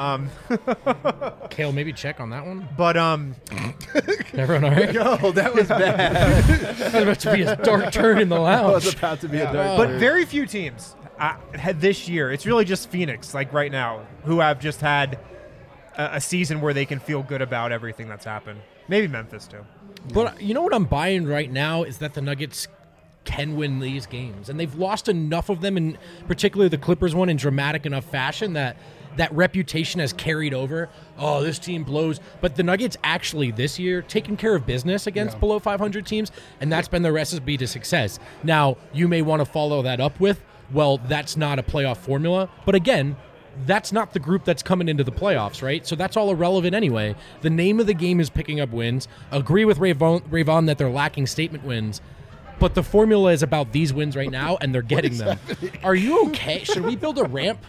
Kale, maybe check on that one. But Everyone all right? Oh, that was bad. That was about to be a dark turn in the That was lounge. about to be a dark. but very few teams had this year. It's really just Phoenix, like right now, who have just had a season where they can feel good about everything that's happened. Maybe Memphis too. But you know what I'm buying right now is that the Nuggets can win these games. And they've lost enough of them, in particularly the Clippers one, in dramatic enough fashion that reputation has carried over. Oh, this team blows. But the Nuggets actually this year taking care of business against below 500 teams, and that's been the recipe to success. Now, you may want to follow that up with, well, that's not a playoff formula. But again, that's not the group that's coming into the playoffs, right? So that's all irrelevant anyway. The name of the game is picking up wins. Agree with Ravon that they're lacking statement wins. But the formula is about these wins right now, and they're getting them. Are you okay? Should we build a ramp?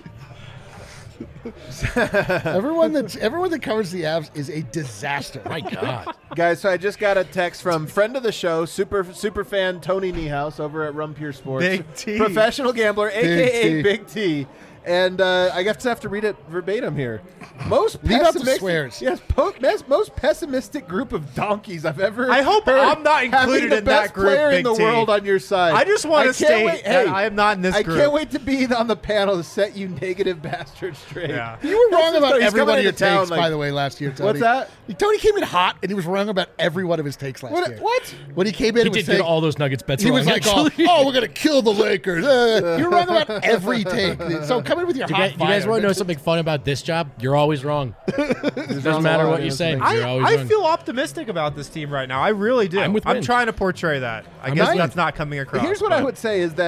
Everyone that covers the Avs is a disaster. My God. Guys, so I just got a text from friend of the show, super fan Tony Niehaus over at Rumpier Sports. Big T. Professional gambler, a.k.a. T. Big T. And I guess I have to read it verbatim here. Most Leave out the pessimistic, swears. yes, most pessimistic group of donkeys I've ever. I hope heard, I'm not having included the in best that group, player in Big the T. world on your side. I just want to can't state wait- that hey, I am not in this I group. can't wait to be on the panel to set you negative bastards straight. Yeah. You were wrong about He's every coming one of your into town, takes, like- by the way, last year, Tony. What's that? Tony came in hot, and he was wrong about every one of his takes last year. What? When he came in, He and was did saying, get all those Nuggets bets he wrong, was like, oh, actually. we're going to kill the Lakers. You're wrong about every take. So come in with your Do hot you guys fire. want to know something fun about this job? You're always wrong. Doesn't matter what you say. You're always I wrong. feel optimistic about this team right now. I really do. I'm with I'm Vince. trying to portray that. I guess not- that's not coming across. Here's what I but- would say is that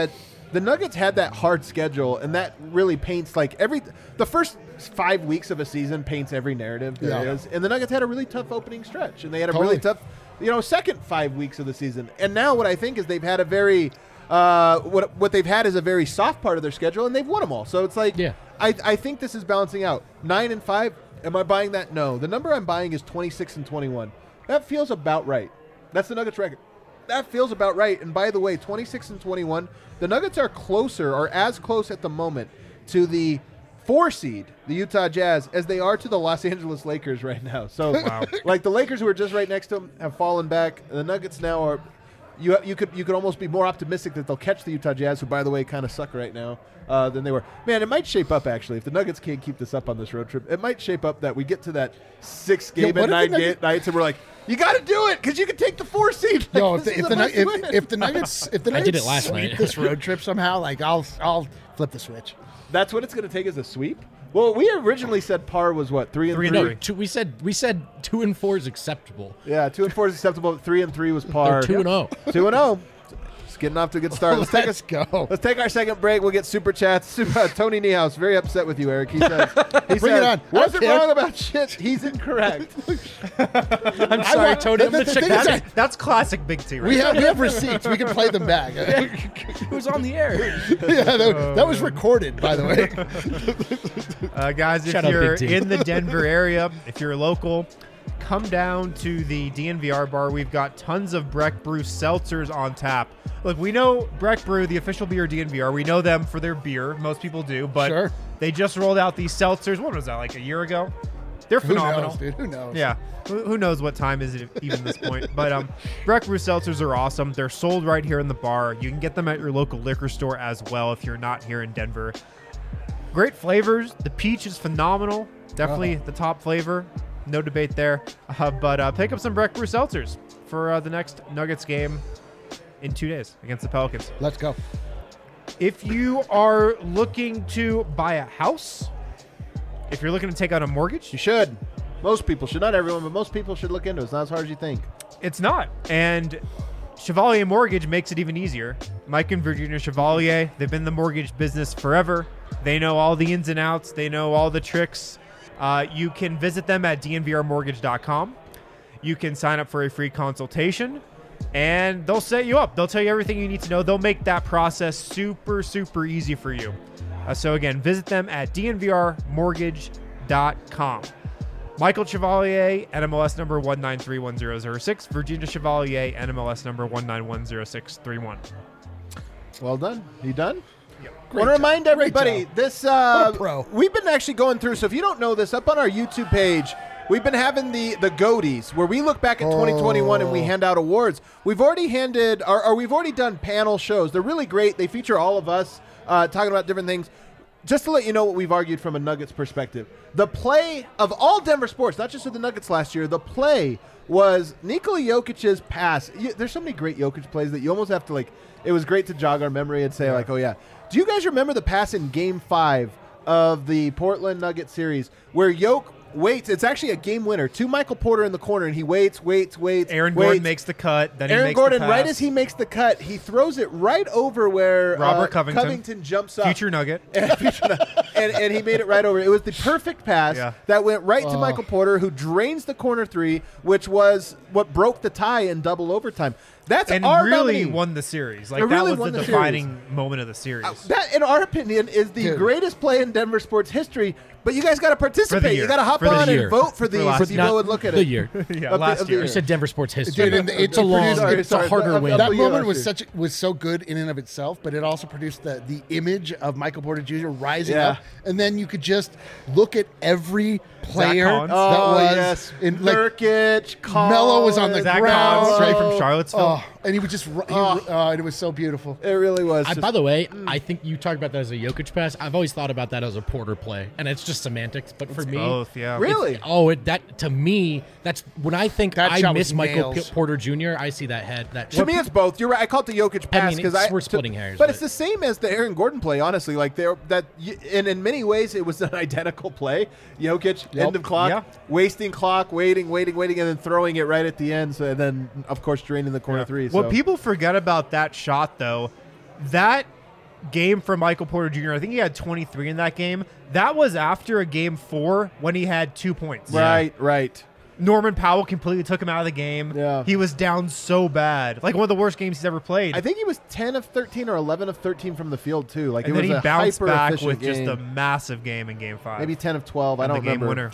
the Nuggets had that hard schedule, and that really paints like the first 5 weeks of a season paints every narrative there is. And the Nuggets had a really tough opening stretch, and they had a really tough, second 5 weeks of the season. And now what I think is they've had a very what they've had is a very soft part of their schedule, and they've won them all. So it's like I think this is balancing out. 9-5. Am I buying that? No. The number I'm buying is 26-21. That feels about right. That's the Nuggets record. That feels about right. And by the way, 26-21, the Nuggets are as close at the moment to the 4 seed, the Utah Jazz, as they are to the Los Angeles Lakers right now. So, like the Lakers who are just right next to them have fallen back. The Nuggets now are. You could almost be more optimistic that they'll catch the Utah Jazz, who, by the way, kind of suck right now, than they were. Man, it might shape up, actually. If the Nuggets can't keep this up on this road trip, it might shape up that we get to that 6-game and 9 nights, and we're like, you got to do it because you can take the 4 seed. Like, if the Nuggets I did it last night. this road trip somehow, like I'll flip the switch. That's what it's going to take as a sweep. Well, we originally said par was what 3-3. No, we said 2 and 4 is acceptable. Yeah, 2 and 4 is acceptable. 3-3 was par. 2-0. 2-0. Just getting off to a good start. Let's go. Let's take our second break. We'll get super chats. Tony Niehaus, very upset with you, Eric. He says, Bring it on. Wasn't wrong about shit. He's incorrect. I'm sorry, Tony. I'm gonna check That's classic Big T. Right? We have receipts. We can play them back. It was on the air. Yeah, that was recorded, by the way. Guys, if you're in the Denver area, if you're local, come down to the DNVR bar. We've got tons of Breck Brew seltzers on tap. Look, we know Breck Brew, the official beer of DNVR. We know them for their beer. Most people do, but they just rolled out these seltzers. What was that, like a year ago? They're phenomenal. Who knows, dude? Who knows? Yeah. Who knows what time is it even at this point? But Breck Brew seltzers are awesome. They're sold right here in the bar. You can get them at your local liquor store as well if you're not here in Denver. Great flavors. The peach is phenomenal. Definitely the top flavor. No debate there. But pick up some Breck Brew seltzers for the next Nuggets game in 2 days against the Pelicans. Let's go. If you are looking to buy a house, if you're looking to take out a mortgage, You should. Most people should. Not everyone, but most people should look into it. It's not as hard as you think. it's not. And Chevalier Mortgage makes it even easier. Mike and Virginia Chevalier, they've been in the mortgage business forever. They know all the ins and outs. They know all the tricks. You can visit them at dnvrmortgage.com. You can sign up for a free consultation, and they'll set you up. They'll tell you everything you need to know. They'll make that process super, super easy for you. So again, visit them at dnvrmortgage.com. Michael Chevalier, NMLS number 1931006. Virginia Chevalier, NMLS number 1910631. Well done. You done? Yep. I want to remind everybody, this pro. we've been actually going through, so if you don't know this, up on our YouTube page, we've been having the Goaties, where we look back at 2021 and we hand out awards. We've already we've already done panel shows. They're really great. They feature all of us talking about different things. Just to let you know what we've argued from a Nuggets perspective. The play of all Denver sports, not just of the Nuggets last year, the play was Nikola Jokic's pass. There's so many great Jokic plays that you almost have to, like, it was great to jog our memory and say, like, oh, yeah. Do you guys remember the pass in Game 5 of the Portland Nuggets series where Jokic waits? It's actually a game winner to Michael Porter in the corner, and he waits. Aaron Gordon makes the cut. Then Aaron he makes Gordon, the pass. right as he makes the cut, he throws it right over where Robert Covington jumps up. Future Nugget. and he made it right over. It was the perfect pass that went right to Michael Porter, who drains the corner three, which was what broke the tie in double overtime. That's and our really nominee. won the series. Like, It really that was won the the defining moment of the series. That, in our opinion, is the greatest play in Denver sports history. But you guys got to participate. year. You got to hop For the on year. and vote for these last if you year. go and look at it. The year. Yeah, last year. You said Denver sports history. Dude, and it's a long, it's a harder win. That Yeah, moment last was so good in and of itself, but it also produced the image of Michael Porter Jr. rising Yeah. up, and then you could just look at every player Collins. that Oh, was yes. in, like, Nurkic, Collins. Melo was on the Zach ground. Collins, straight from Charlottesville. and he would just and it was so beautiful. It really was. By the way, I think you talked about that as a Jokic pass. I've always thought about that as a Porter play, and it's just semantics. But for me, Both, yeah. Really? that to me, that's when I think That I shot miss was Michael nails. Porter Jr. I see that head. That To me, it's both. You're right. I call it the Jokic pass mean, because we're splitting hairs, but but- it's the same as the Aaron Gordon play. Honestly, like and in many ways, it was an identical play. Jokic, end of clock, Yeah. wasting clock, waiting, and then throwing it right at the end. So and then, of course, draining the corner three. So. What people forget about that shot, though, that game from Michael Porter Jr. I think he had 23 in that game. That was after a game 4 when he had 2 points. Right. Norman Powell completely took him out of the game. Yeah. He was down so bad. Like one of the worst games he's ever played. I think he was 10 of 13 or 11 of 13 from the field, too. Like, and it then was he a bounced back hyper-efficient with game. just a massive game in game 5. Maybe 10 of 12. I And don't the game remember. winner.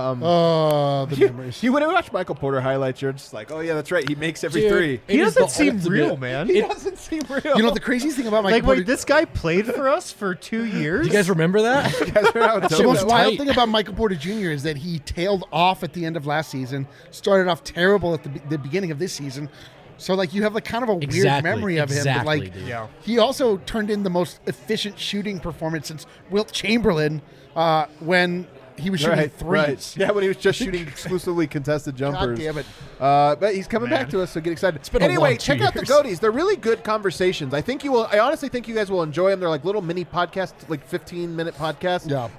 The memories. You when I watch Michael Porter highlights, you're just like, oh, yeah, that's right. He makes every Dude, three. He it is doesn't the seem ultimate- real, man. He doesn't seem real. You know, the craziest thing about Michael Like, Porter wait, this guy played for us for 2 years? Do you guys remember that? You guys are out The dope. most wild tight. thing about Michael Porter Jr. is that he tailed off at the end of last season, started off terrible at the beginning of this season. So, like, you have like kind of a weird Exactly, memory of him. But, exactly, like, dude. Yeah. he also turned in the most efficient shooting performance since Wilt Chamberlain when he was shooting threes. Right. Yeah, when he was just shooting exclusively contested jumpers. God damn it. But he's coming back Man. to us, so get excited. been a Anyway, long 2 check out the years. Goaties. They're really good conversations. I honestly think you guys will enjoy them. They're like little mini podcasts, like 15-minute podcasts. Yeah.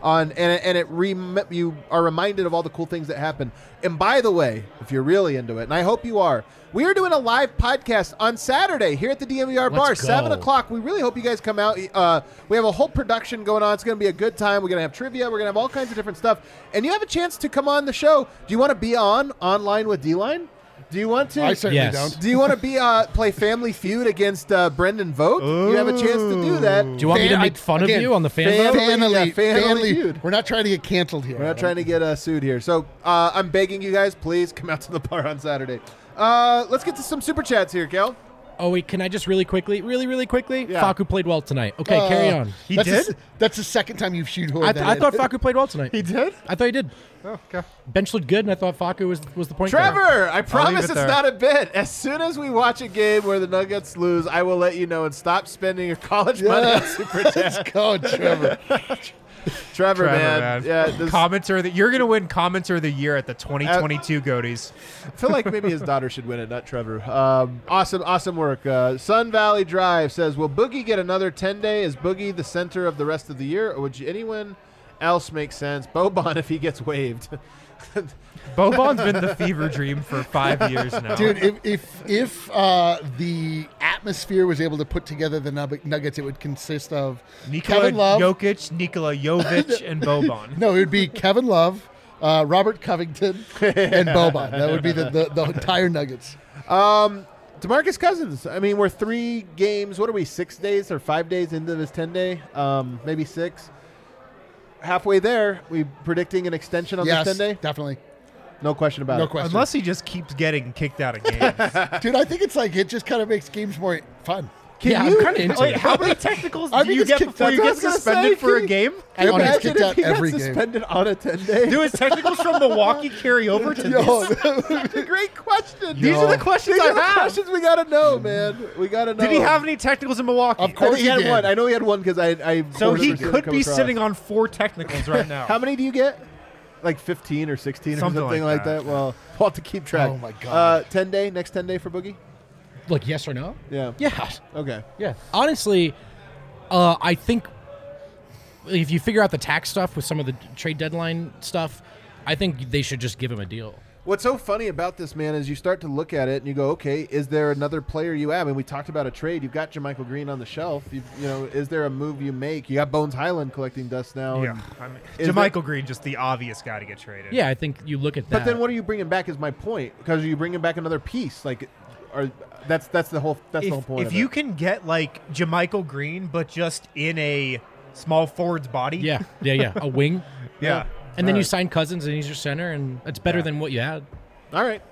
You are reminded of all the cool things that happen. And by the way, if you're really into it, and I hope you are, we are doing a live podcast on Saturday here at the DMVR Bar, Let's go. 7 o'clock. We really hope you guys come out. We have a whole production going on. It's going to be a good time. We're going to have trivia. We're going to have all kinds of different stuff. And you have a chance to come on the show. Do you want to be online with D-Line? Do you want to? I certainly Yes. don't. Do you want to play Family Feud against Brendan Vogt? You have a chance to do that. Do you want me to make fun again, of you on the fan fan- vote? Fan elite, Yeah, fan fan elite elite. feud. We're not trying to get canceled here. We're not trying to get sued here. So I'm begging you guys, please come out to the bar on Saturday. Let's get to some super chats here, Kel. Oh, wait, can I just really quickly? Yeah. Facu played well tonight. Okay, carry on. He that's did? That's the second time you've shoehorned I that in. thought Facu played well tonight. He did? I thought he did. Oh, okay. Bench looked good, and I thought Facu was the point guard. Trevor, I promise it it's there. not a bit. As soon as we watch a game where the Nuggets lose, I will let you know and stop spending your college money on super chat. Let's go, Trevor. Trevor, man. Yeah, this, Commenter you're going to win Commenter of the Year at the 2022 Goaties. I feel like maybe his daughter should win it, not Trevor. Awesome work. Sun Valley Drive says, will Boogie get another 10-day? Is Boogie the center of the rest of the year, or would anyone else make sense? Boban if he gets waived. Boban's been the fever dream for 5 years now. Dude, if the atmosphere was able to put together the Nuggets, it would consist of Nikola Kevin Love. Jokic, Nikola Jovic, and Boban. No, it would be Kevin Love, Robert Covington, and Boban. That would be the entire Nuggets. DeMarcus Cousins. I mean, we're 3 games. What are we, 6 days or 5 days into this 10-day? Maybe 6. Halfway there. We predicting an extension on Yes, this 10-day? definitely. No question about No it. question. Unless he just keeps getting kicked out of games. Dude, I think it's like it just kind of makes games more fun. Yeah, I'm kind of into Wait, it. how many technicals I do think you it's get kicked before out. you That's get what I was gonna suspended say, for a Keith. game? I don't Imagine get kicked if out he got every game. suspended on a 10-day. Do his technicals from Milwaukee carry over to Yo, this? Great question. These are the questions These I are the have. questions we got to know, man. We got to know. Did he have any technicals in Milwaukee? Of I course think he had did. one. I know he had one because I So he remember seeing him could come be across. sitting on 4 technicals right now. How many do you get? Like 15 or 16 Something or something like like that. that. Well, we'll have to keep track. Oh, my God. 10-day, next 10-day for Boogie? Like, yes or no? Yeah. Yeah. Okay. Yeah. Honestly, I think if you figure out the tax stuff with some of the trade deadline stuff, I think they should just give him a deal. What's so funny about this, man, is you start to look at it and you go, okay, is there another player you have? And we talked about a trade. You've got JaMychal Green on the shelf. Is there a move you make? You got Bones Highland collecting dust now. Yeah, and- I mean, Is JaMychal Green, just the obvious guy to get traded. Yeah, I think you look at that. But then what are you bringing back is my point. Because you bringing back another piece. That's the whole point If of you it. can get like JaMychal Green, but just in a small forward's body. Yeah. A wing. Yeah. And then All you right. sign Cousins and he's your center, and it's better than what you had. All right.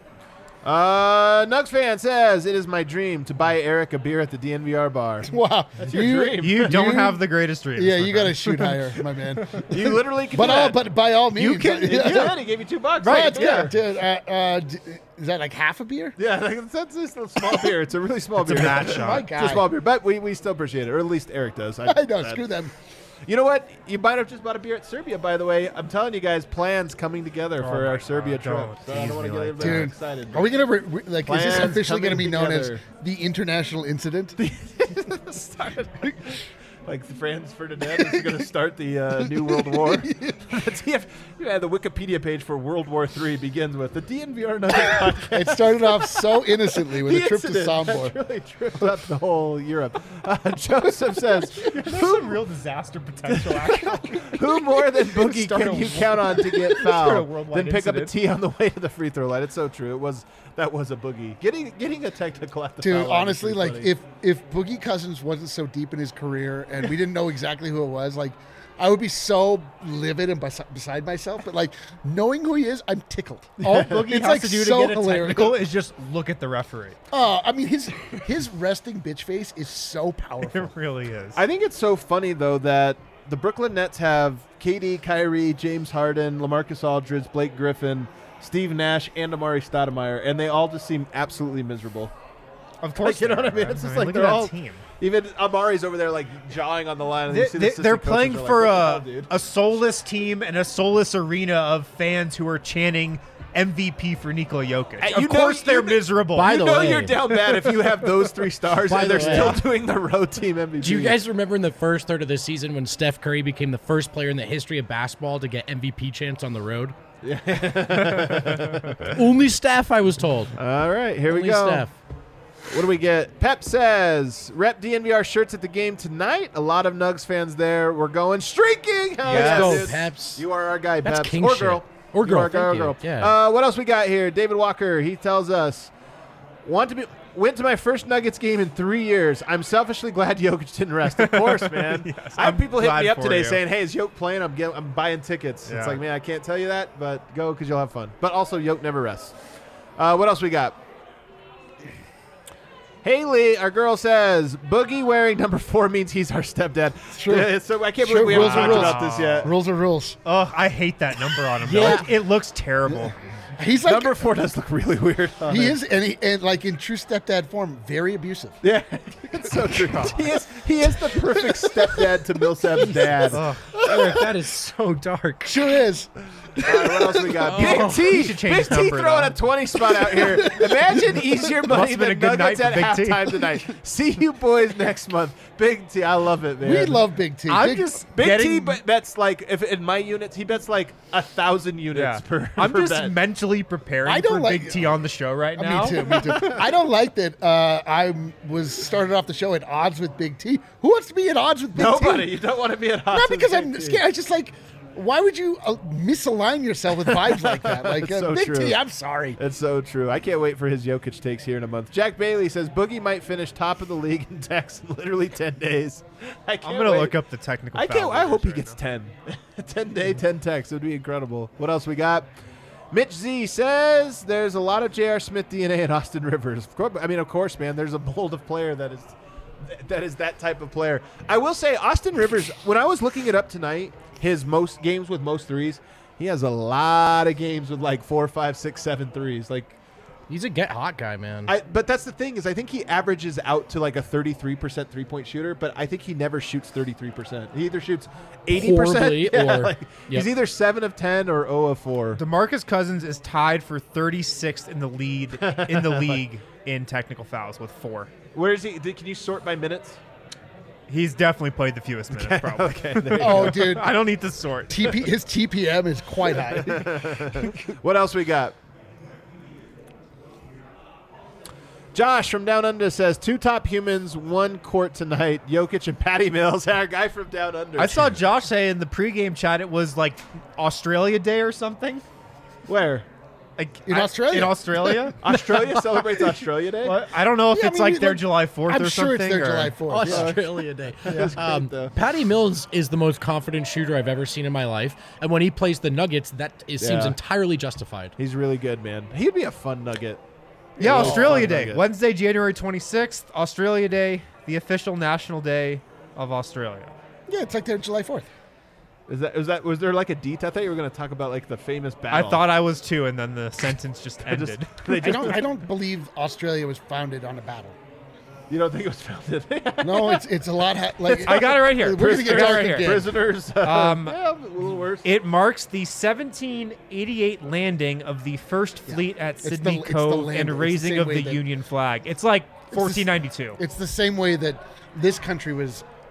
Nugs fan says, it is my dream to buy Eric a beer at the DNVR bar. wow. your dream. You don't have the greatest dreams. Yeah, my you got to friend. shoot higher, my man. You literally can do that. But by all means, You can- You did. He gave you $2. Right, for a yeah, beer. dude. Is that like half a beer? Yeah, that's just a small beer. It's a really small It's a beer. match My shot. God. It's a small beer, but we still appreciate it, or at least Eric does. I know. Screw them. You know what? You might have just bought a beer at Serbia, by the way. I'm telling you guys, plans coming together for my our God, Serbia trip. don't So I tease don't want to me get like a little bit Dude, excited. are we gonna is this Plans officially gonna coming be known together. as the international incident? Like Franz Ferdinand is going to start the New World War. The Wikipedia page for World War III begins with the DNVR Nugget podcast. It started off so innocently with The a trip to incident Sombor. that really tripped up the whole Europe. Joseph says, There's some real disaster potential, actually. who more than Boogie Start can a you count on to get start a fouled? worldwide Then pick up a incident. tee on the way to the free throw line. It's so true. That was a Boogie. Getting a technical at the Dude, foul line is honestly, pretty like funny. if Boogie Cousins wasn't so deep in his career and we didn't know exactly who it was, like I would be so livid and beside myself. But like knowing who he is, I'm tickled. All Boogie It's has like to do so to get a hilarious. technical is just look at the referee. I mean his resting bitch face is so powerful. It really is. I think it's so funny though that the Brooklyn Nets have KD, Kyrie, James Harden, LaMarcus Aldridge, Blake Griffin, Steve Nash, and Amari Stoudemire, and they all just seem absolutely miserable. Of course, Like, you know they what I mean? are, It's just man. like Look they're at that all team. Even Amari's over there like jawing on the line. And you see the assistant They're coaches playing are like, for "What the hell, dude?" a soulless team and a soulless arena of fans who are chanting MVP for Nikola Jokic. Hey, Of course they're miserable. By You the know way- you're down bad if you have those three stars By and the they're way- still doing the road team MVP. Do you guys remember in the first third of the season when Steph Curry became the first player in the history of basketball to get MVP chance on the road? Only Steph, I was told. All right, here Only we go. Steph. What do we get? Pep says, rep DNVR shirts at the game tonight. A lot of Nugs fans there. We're going streaking. Hell Yes. yeah, Go, dude. Peps. You are our guy, That's Peps. king Or shit. girl. Or You girl, are a guy or thank you. girl. Yeah. What else we got here? David Walker, he tells us, went to my first Nuggets game in 3 years. I'm selfishly glad Jokic didn't rest. Of course, man. Yes, I have I'm people hit glad me up for today you. saying, hey, is Jokic playing? I'm buying tickets. Yeah. It's like, man, I can't tell you that, but go because you'll have fun. But also, Jokic never rests. What else we got? Haley, our girl, says Boogie wearing number 4 means he's our stepdad. True. Yeah, so I can't True. believe we haven't Rules are talked rules. about this yet. Rules are rules. Oh, I hate that number on him. Yeah. Like, it looks terrible. He's like Number 4 does look really weird. on he it. is, and like in true stepdad form, very abusive. Yeah, it's so true. He is the perfect stepdad to Millsap's dad. Ugh. Eric, that is so dark. Sure is. All right, what else we got? Big Oh, T. he should change Big his T number, throwing though. a 20 spot out here. Imagine easier money have been a than good Nuggets night at for Big T. halftime tonight. See you boys next month. Big T, I love it, man. We love Big T. I'm Big, just Big getting, T bets like if in my units he bets like 1,000 units yeah. per. I'm per just bet. mentally preparing I don't for like- Big T on the show right now. Me too. Me too. I don't like that. I was started off the show at odds with Big T. Who wants to be at odds with Big Nobody. T? You don't want to be at odds. Not with because Big I'm T. scared. I just like. Why would you misalign yourself with vibes like that? Like It's so Big true. T, I'm sorry. It's so true. I can't wait for his Jokic takes here in a month. Jack Bailey says Boogie might finish top of the league in tax in literally 10 days. I can't I'm gonna wait. look up the technical. I can't. foul I hope he numbers gets right 10. 10 day, 10 techs. It would be incredible. What else we got? Mitch Z says there's a lot of J.R. Smith DNA in Austin Rivers. Of course, man. There's a mold of player that is that type of player. I will say Austin Rivers. When I was looking it up tonight, his most games with most threes, he has a lot of games with like 4, 5, 6, 7 threes. Like. He's a get hot guy, man. But that's the thing is I think he averages out to like a 33% 3-point shooter, but I think he never shoots 33%. He either shoots 80%. Horribly or- like, Yep. He's either 7 of 10 or 0 of 4. now. DeMarcus Cousins is tied for 36th in the league in technical fouls with 4. Where is he? Can you sort by minutes? He's definitely played the fewest minutes, probably. Okay. There you Oh, dude. I don't need to sort. His TPM is quite high. go. What else we got? Josh from Down Under says 2 top humans, 1 court tonight. Jokic and Patty Mills, our guy from Down Under. I saw Josh say in the pregame chat it was like Australia Day or something. Where? Like In Australia. In Australia? Australia celebrates Australia Day. What? I don't know if Yeah, I it's mean, like their July 4th I'm or sure something. it's their or- July 4th. Yeah. Australia Day. That's great, though. Patty Mills is the most confident shooter I've ever seen in my life, and when he plays the Nuggets, seems Yeah. entirely justified. He's really good, man. He'd be a fun nugget. Yeah, Oh, Australia fun Day. nugget. Wednesday, January 26th, Australia Day, the official national day of Australia. Yeah, it's like their July 4th. Was there like a detail? I thought you were going to talk about like the famous I battle. thought I was too, and then the sentence just I just- ended. they just- I don't believe Australia was founded on a battle. You don't think it was founded? No, it's a lot. Like I got it right here. We're gonna get I got it dark right here. again. Prisoners. Yeah, a little worse. It marks the 1788 landing of the first fleet at It's the- Sydney it's the Cove landing. and It's the raising same of way the that- Union flag. It's like the s- 1492. It's the same way that this country was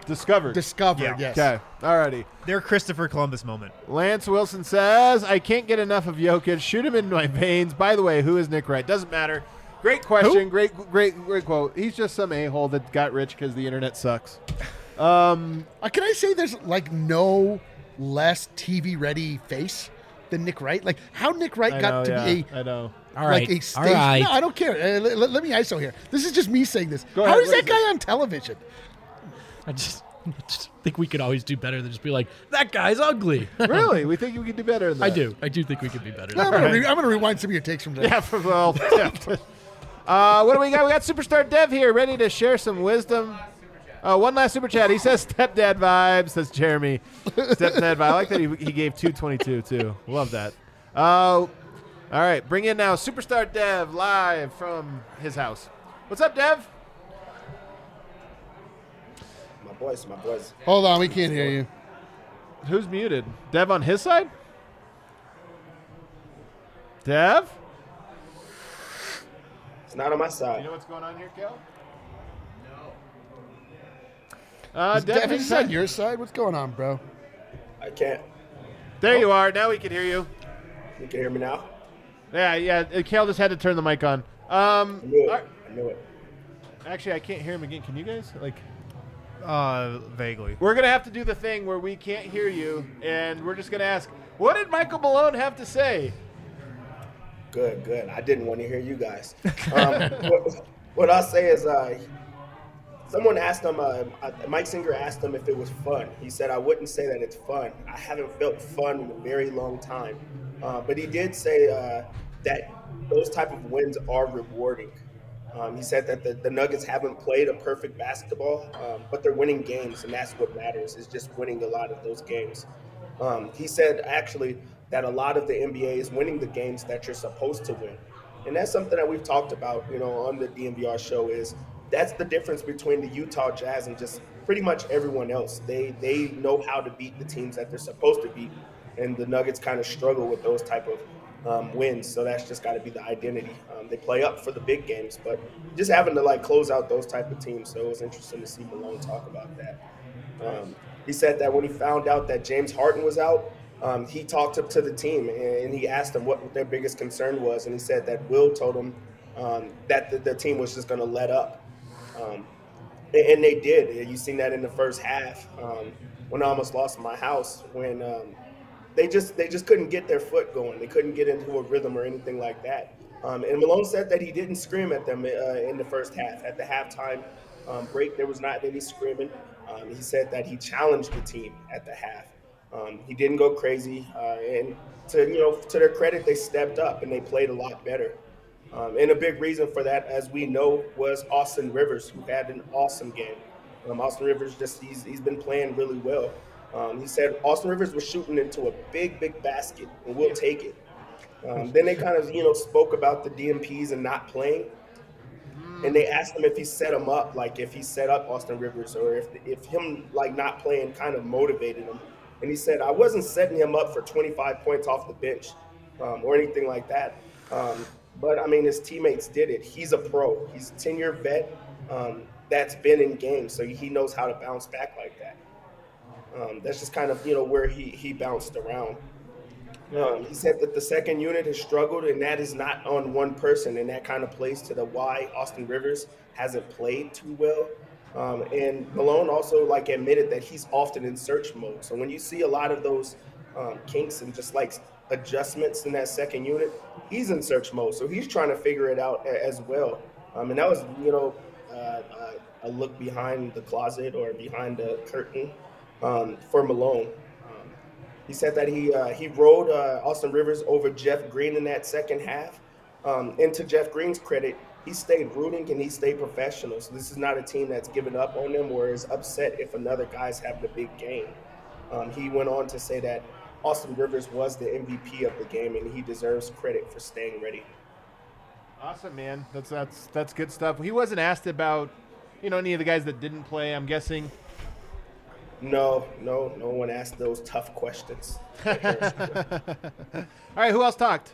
Discovered. Discovered, Yeah. yes. Okay. Alrighty. Their Christopher Columbus moment. Lance Wilson says, I can't get enough of Jokic. Shoot him in my veins. By the way, who is Nick Wright? Doesn't matter. Great question. Great quote. He's just some a-hole that got rich because the internet sucks. Can I say there's like no less TV ready face than Nick Wright? Like how Nick Wright got to be I know. All right. like a stage. All right. No, I don't care. Let me ISO here. This is just me saying this. Go How ahead, is what that is guy on television? I just think we could always do better than just be like, that guy's ugly. Really? We think we can do better than that. I do think we could be better. I'm gonna rewind some of your takes from that. Yeah, well, what do we got? We got Superstar Dev here, ready to share some wisdom. One last super chat. He says stepdad vibes, says Jeremy. Stepdad vibe. I like that he gave 222 too. Love that. All right, bring in now Superstar Dev live from his house. What's up, Dev? My boys. Hold on, we can't hear you. Who's muted? Dev on his side? Dev? It's not on my You side. know what's going on here, Kel? No. Is Dev, Devin's on your side? What's going on, bro? I can't. there you are. Now we can hear you. You can hear me now? Yeah. Kel just had to turn the mic on. I knew it. all right. I knew it. Actually, I can't hear him again. Can you guys? Vaguely. We're going to have to do the thing where we can't hear you, and we're just going to ask, what did Michael Malone have to say? Good. I didn't want to hear you guys. What I'll say is someone asked him, Mike Singer asked him if it was fun. He said, I wouldn't say that it's fun. I haven't felt fun in a very long time. But he did say that those type of wins are rewarding. He said that the Nuggets haven't played a perfect basketball, but they're winning games, and that's what matters, is just winning a lot of those games. He said, actually, that a lot of the NBA is winning the games that you're supposed to win. And that's something that we've talked about, on the DNVR show, is that's the difference between the Utah Jazz and just pretty much everyone else. They know how to beat the teams that they're supposed to beat, and the Nuggets kind of struggle with those type of wins. So that's just got to be the identity. They play up for the big games, but just having to close out those type of teams. So it was interesting to see Malone talk about that. He said that when he found out that James Harden was out, he talked up to the team and he asked them what their biggest concern was. And he said that Will told him that the team was just going to let up. And they did. You've seen that in the first half when I almost lost my house, when they just couldn't get their foot going. They couldn't get into a rhythm or anything like that. And Malone said that he didn't scream at them in the first half. At the halftime break, there was not any screaming. He said that he challenged the team at the half. He didn't go crazy, and to their credit, they stepped up and they played a lot better. And a big reason for that, as we know, was Austin Rivers, who had an awesome game. Austin Rivers he's been playing really well. He said Austin Rivers was shooting into a big basket, and we'll take it. Then they kind of spoke about the DMPs and not playing. And they asked him if he set him up, if he set up Austin Rivers, or if him not playing kind of motivated him. And he said, I wasn't setting him up for 25 points off the bench or anything like that. But, I mean, his teammates did it. He's a pro. He's a 10-year vet that's been in games, so he knows how to bounce back like that. That's just kind of, where he bounced around. He said that the second unit has struggled, and that is not on one person, and that kind of plays to the why Austin Rivers hasn't played too well. And Malone also admitted that he's often in search mode. So when you see a lot of those kinks and just adjustments in that second unit, he's in search mode. So he's trying to figure it out as well. And that was, a look behind the closet or behind the curtain for Malone. He said that he rode Austin Rivers over Jeff Green in that second half. And to Jeff Green's credit, he stayed rooting and he stayed professional. So this is not a team that's given up on them or is upset if another guy's having a big game. He went on to say that Austin Rivers was the MVP of the game and he deserves credit for staying ready. Awesome, man. That's good stuff. He wasn't asked about, any of the guys that didn't play, I'm guessing. No one asked those tough questions. All right, who else talked?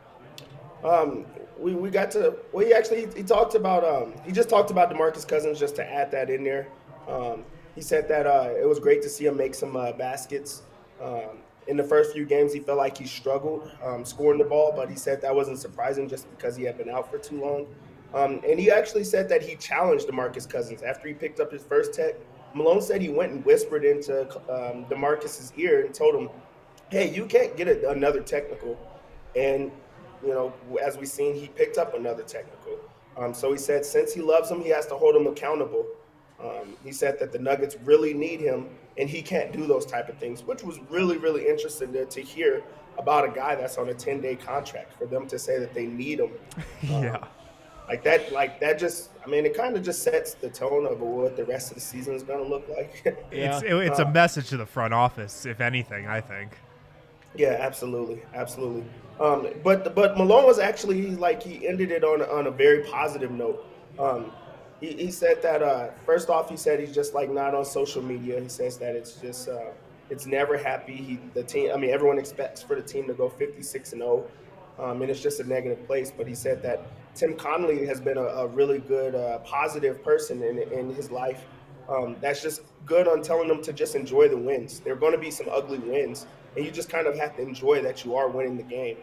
We got to he talked about he just talked about DeMarcus Cousins, just to add that in there. he said that it was great to see him make some baskets. In the first few games, he felt like he struggled scoring the ball, but he said that wasn't surprising just because he had been out for too long. And he actually said that he challenged DeMarcus Cousins after he picked up his first tech. Malone said he went and whispered into DeMarcus's ear and told him, hey, you can't get another technical. And, as we've seen, he picked up another technical. So he said since he loves him, he has to hold him accountable. He said that the Nuggets really need him, and he can't do those type of things, which was really, really interesting to hear about a guy that's on a 10-day contract, for them to say that they need him. Yeah. Like that just, it kind of just sets the tone of what the rest of the season is going to look like. Yeah. It's a message to the front office, if anything, I think. Yeah, absolutely. But Malone was actually, he ended it on a very positive note. He said that, first off, he said he's just not on social media. He says that it's just, it's never happy. Everyone expects for the team to go 56-0. And it's just a negative place. But he said that Tim Connolly has been a really good, positive person in his life. That's just good on telling them to just enjoy the wins. There are going to be some ugly wins, and you just kind of have to enjoy that you are winning the game.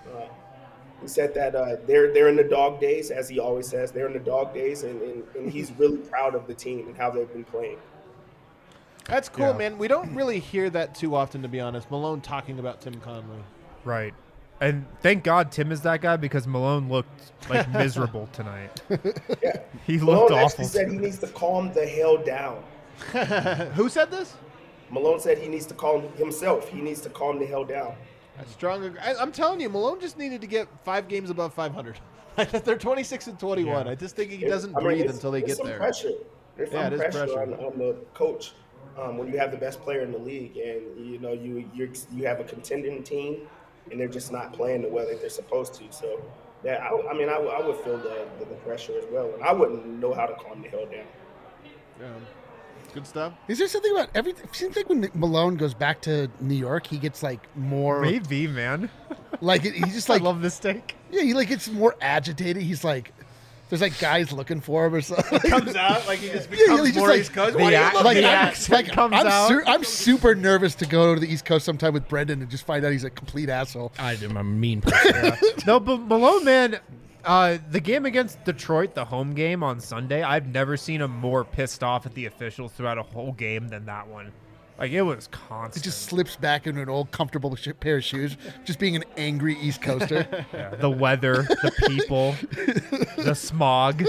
He said that they're in the dog days, as he always says. They're in the dog days, and he's really proud of the team and how they've been playing. That's cool, Yeah. man. We don't really hear that too often, to be honest. Malone talking about Tim Conley. Right. And thank God Tim is that guy, because Malone looked miserable tonight. Yeah. He Malone looked actually awful. said he needs to calm the hell down. Who said this? Malone said he needs to calm himself. He needs to calm the hell down. That's strong. I'm telling you, Malone just needed to get 5 games above 500. They're 26-21. Yeah. I just think he doesn't breathe until they get there. Pressure. There's Yeah, some it is pressure pressure. on the coach when you have the best player in the league, and you have a contending team, and they're just not playing the way that they're supposed to. So, yeah, I would feel the pressure as well, and I wouldn't know how to calm the hell down. Yeah. Good stuff. Is there something about everything? It seems like when Malone goes back to New York, he gets more Maybe, man. he's just I love this take. yeah, he gets more agitated. He's there's guys looking for him or something. Comes out like he just Yeah, becomes he just, more like, East Coast. the Why do you act- love like, the the accent? accent comes out. I'm super nervous to go to the East Coast sometime with Brendan and just find out he's a complete asshole. I'm a mean person. No, but Malone, man, the game against Detroit, the home game on Sunday, I've never seen him more pissed off at the officials throughout a whole game than that one. It was constant. It just slips back into an old comfortable pair of shoes, just being an angry East Coaster. Yeah, the weather, the people, the smog.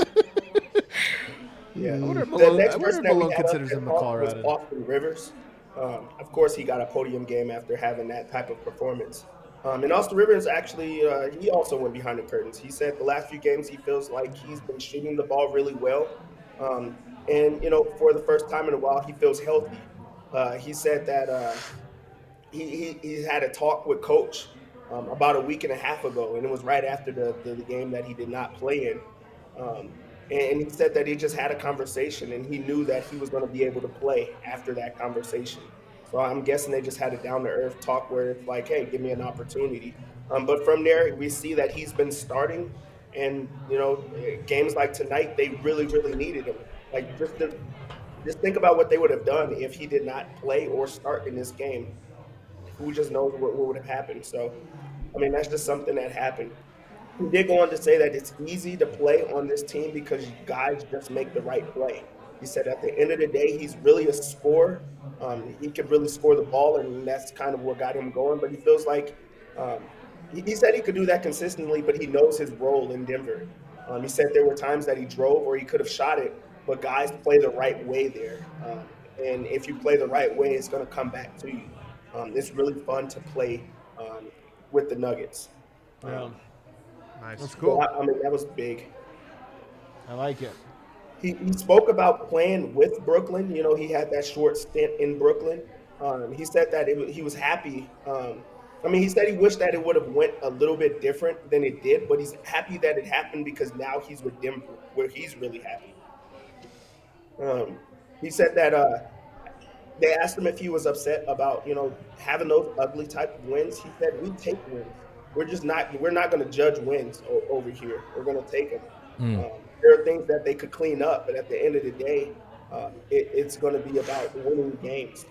Yeah. I wonder if The Malone, next I wonder person if that we Malone had considers up him a there was Colorado. Austin Rivers. Of course, he got a podium game after having that type of performance. And Austin Rivers actually, he also went behind the curtains. He said the last few games he feels like he's been shooting the ball really well. And for the first time in a while, he feels healthy. He said that he had a talk with Coach about a week and a half ago, and it was right after the game that he did not play in. And he said that he just had a conversation, and he knew that he was going to be able to play after that conversation. So I'm guessing they just had a down-to-earth talk where it's like, hey, give me an opportunity. But from there, we see that he's been starting, and, games like tonight, they really, really needed him. Just think about what they would have done if he did not play or start in this game. Who just knows what would have happened. So, that's just something that happened. He did go on to say that it's easy to play on this team because guys just make the right play. He said at the end of the day, he's really a scorer. He could really score the ball, and that's kind of what got him going. But he feels like he said he could do that consistently, but he knows his role in Denver. He said there were times that he drove or he could have shot it, but guys play the right way there. And if you play the right way, it's going to come back to you. It's really fun to play with the Nuggets. Yeah. Nice. That's cool. That was big. I like it. He spoke about playing with Brooklyn. He had that short stint in Brooklyn. He said that he was happy. He said he wished that it would have went a little bit different than it did, but he's happy that it happened because now he's with Denver, where he's really happy. He said that they asked him if he was upset about, having those ugly type of wins. He said, we take wins. We're not going to judge wins over here. We're going to take them. There are things that they could clean up, but at the end of the day, It's going to be about winning games.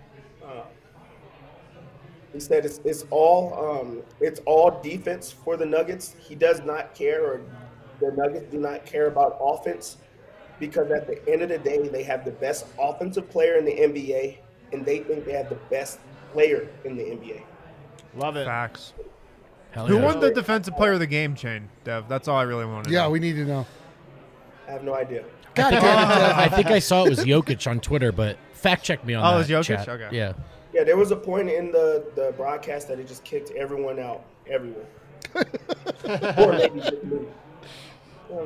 He said it's all defense for the Nuggets. He does not care, or the Nuggets do not care about offense, because at the end of the day, they have the best offensive player in the NBA, and they think they have the best player in the NBA. Love it. Facts. Hell Who yeah. won the defensive player of the game chain, Dev? That's all I really want to know. Yeah, we need to know. I have no idea. God damn it. I think I saw it was Jokic on Twitter, but fact check me on that. Oh, it was Jokic? chat. Okay. Yeah. Yeah, there was a point in the broadcast that it just kicked everyone out, everyone. Or maybe just me. Oh,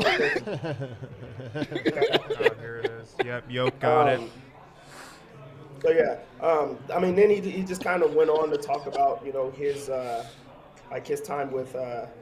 here it is. Yep, Yoke got it. So yeah, I mean, then he just kind of went on to talk about, you know, his his time with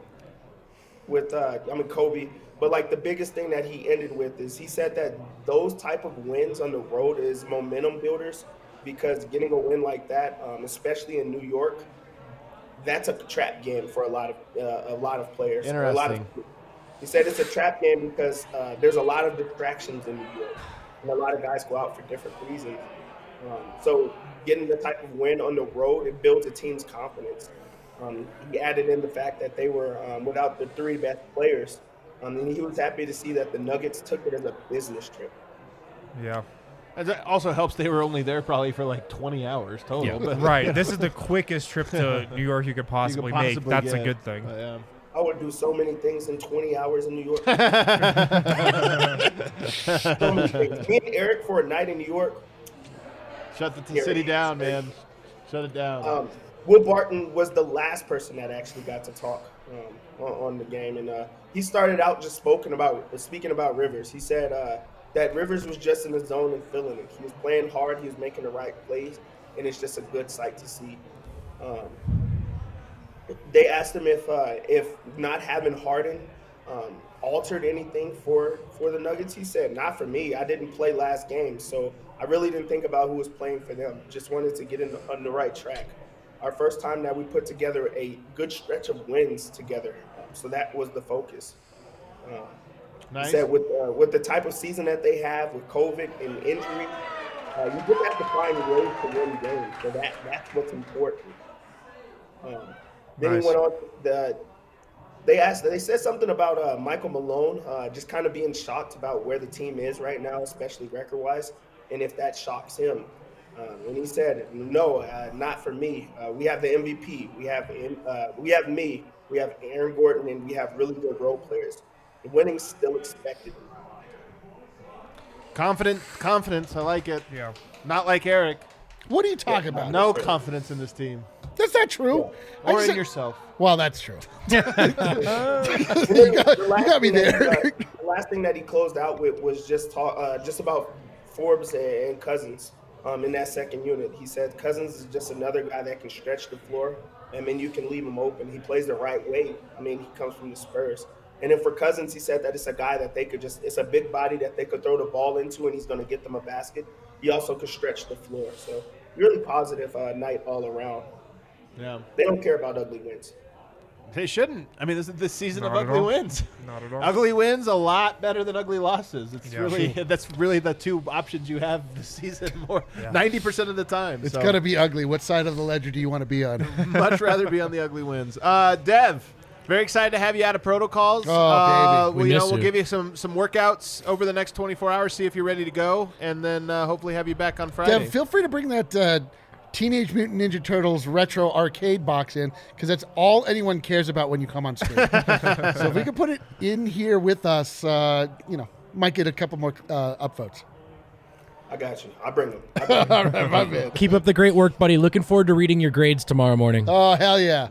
Kobe. But like the biggest thing that he ended with is he said that those type of wins on the road is momentum builders, because getting a win like that, especially in New York, that's a trap game for a lot of players. Interesting. He said it's a trap game because there's a lot of distractions in New York, and a lot of guys go out for different reasons. So getting the type of win on the road, it builds a team's confidence. He added in the fact that they were without the three best players. And he was happy to see that the Nuggets took it as a business trip. Yeah. And that also helps they were only there probably for like 20 hours total. Yeah. But Right. This is the quickest trip to New York you could possibly, make. That's a good thing. Yeah. I would do so many things in 20 hours in New York. So many things. Me and Eric for a night in New York. Shut the city down, man. Shut it down. Will Barton was the last person that actually got to talk on the game, and he started out just speaking about Rivers. He said that Rivers was just in the zone and feeling it. He was playing hard. He was making the right plays, and it's just a good sight to see. They asked him if not having Harden altered anything for the Nuggets. He said, "Not for me. I didn't play last game, so I really didn't think about who was playing for them. Just wanted to get on the right track. Our first time that we put together a good stretch of wins together, so that was the focus." Nice. He said with the type of season that they have with COVID and injury, you just have to find ways to win games. So that's what's important. Then Nice. he went on. They said something about Michael Malone just kind of being shocked about where the team is right now, especially record-wise, and if that shocks him. And he said, "No, not for me. We have the MVP. We have me. We have Aaron Gordon, and we have really good role players. The winning's still expected." Confidence. I like it. Yeah. Not like Eric. What are you talking about? No confidence in this team. That's not true. I Or just in said- yourself. Well, that's true. You got me there. The last thing that he closed out with was just about Forbes and Cousins in that second unit. He said Cousins is just another guy that can stretch the floor. I mean, you can leave him open. He plays the right way. I mean, he comes from the Spurs. And then for Cousins, he said that it's a guy that it's a big body that they could throw the ball into, and he's going to get them a basket. He also could stretch the floor. So really positive night all around. Yeah. They don't care about ugly wins. They shouldn't. I mean, this is the season Not of at ugly all. wins. Not at all. Ugly wins a lot better than ugly losses. It's Yeah. really that's really the two options you have this season. 90% of the time. It's So going to be ugly. What side of the ledger do you want to be on? much rather be on the ugly wins. Dev, very excited to have you out of protocols. Oh, baby. We miss We'll you. give you some workouts over the next 24 hours. See if you're ready to go, and then hopefully have you back on Friday. Dev, feel free to bring that Teenage Mutant Ninja Turtles retro arcade box in, because that's all anyone cares about when you come on screen. So if we could put it in here with us, might get a couple more upvotes. I got you. I'll bring them. All right, my man. Keep up the great work, buddy. Looking forward to reading your grades tomorrow morning. Oh, hell yeah.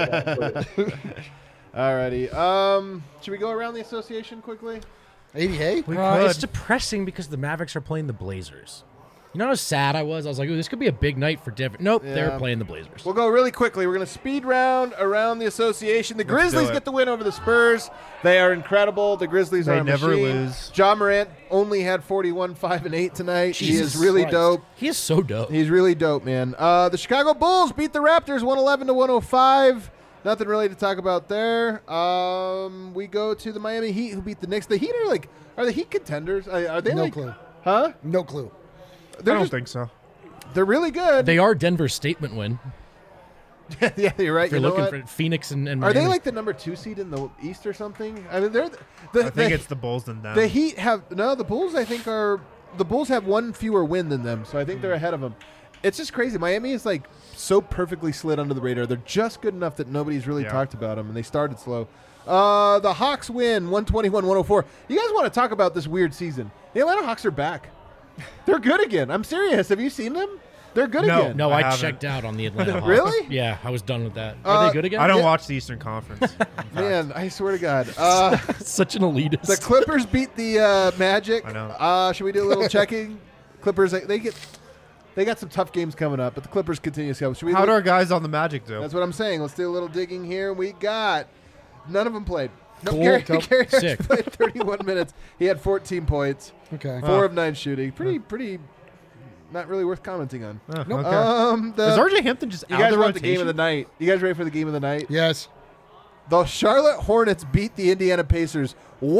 Alrighty. Should we go around the association quickly? 80, hey? We It's could. depressing because the Mavericks are playing the Blazers. You know how sad I was? I was like, ooh, this could be a big night for Denver. Nope, they're Yeah. playing the Blazers. We'll go really quickly. We're going to speed round around the association. The Let's Grizzlies do it. get the win over the Spurs. They are incredible. The Grizzlies They are a never machine. lose. Ja Morant only had 41, 5, and 8 tonight. he Jesus is really Christ. dope. He is so dope. He's really dope, man. The Chicago Bulls beat the Raptors 111-105. Nothing really to talk about there. We go to the Miami Heat, who beat the Knicks. The Heat are the Heat contenders? Are they No like clue. Huh? No clue. I They're don't just, think so. they're really good. They are Denver's statement win. Yeah, you're right. If you're You know looking what? for Phoenix and Are Miami. they like the number 2 seed in the East or something? I mean, they're I think it's the Bulls and them. the Heat have the Bulls. I think the Bulls have one fewer win than them, so I think they're ahead of them. It's just crazy. Miami is like so perfectly slid under the radar. They're just good enough that nobody's really talked about them, and they started slow. The Hawks win 121-104. You guys want to talk about this weird season? The Atlanta Hawks are back. They're good again. I'm serious. Have you seen them? They're good No. again. No, I I haven't. checked out on the Atlanta Hawks. Really? Yeah, I was done with that. Are they good again? I don't Yeah. watch the Eastern Conference. in fact. Man, I swear to God. Such an elitist. The Clippers beat the Magic. I know. Should we do a little checking? Clippers, they got some tough games coming up, but the Clippers continue to go. Should we? How do our guys on the Magic do? That's what I'm saying. Let's do a little digging here. We got none of them played. No, Cool. Gary Cool. Harris Sick. played 31 minutes. He had 14 points, Okay. 4 of 9 shooting. Pretty. Not really worth commenting on. Oh, Nope. okay. Is RJ Hampton just You out guys of the want the game of the rotation? night? You guys ready for the game of the night? Yes. The Charlotte Hornets beat the Indiana Pacers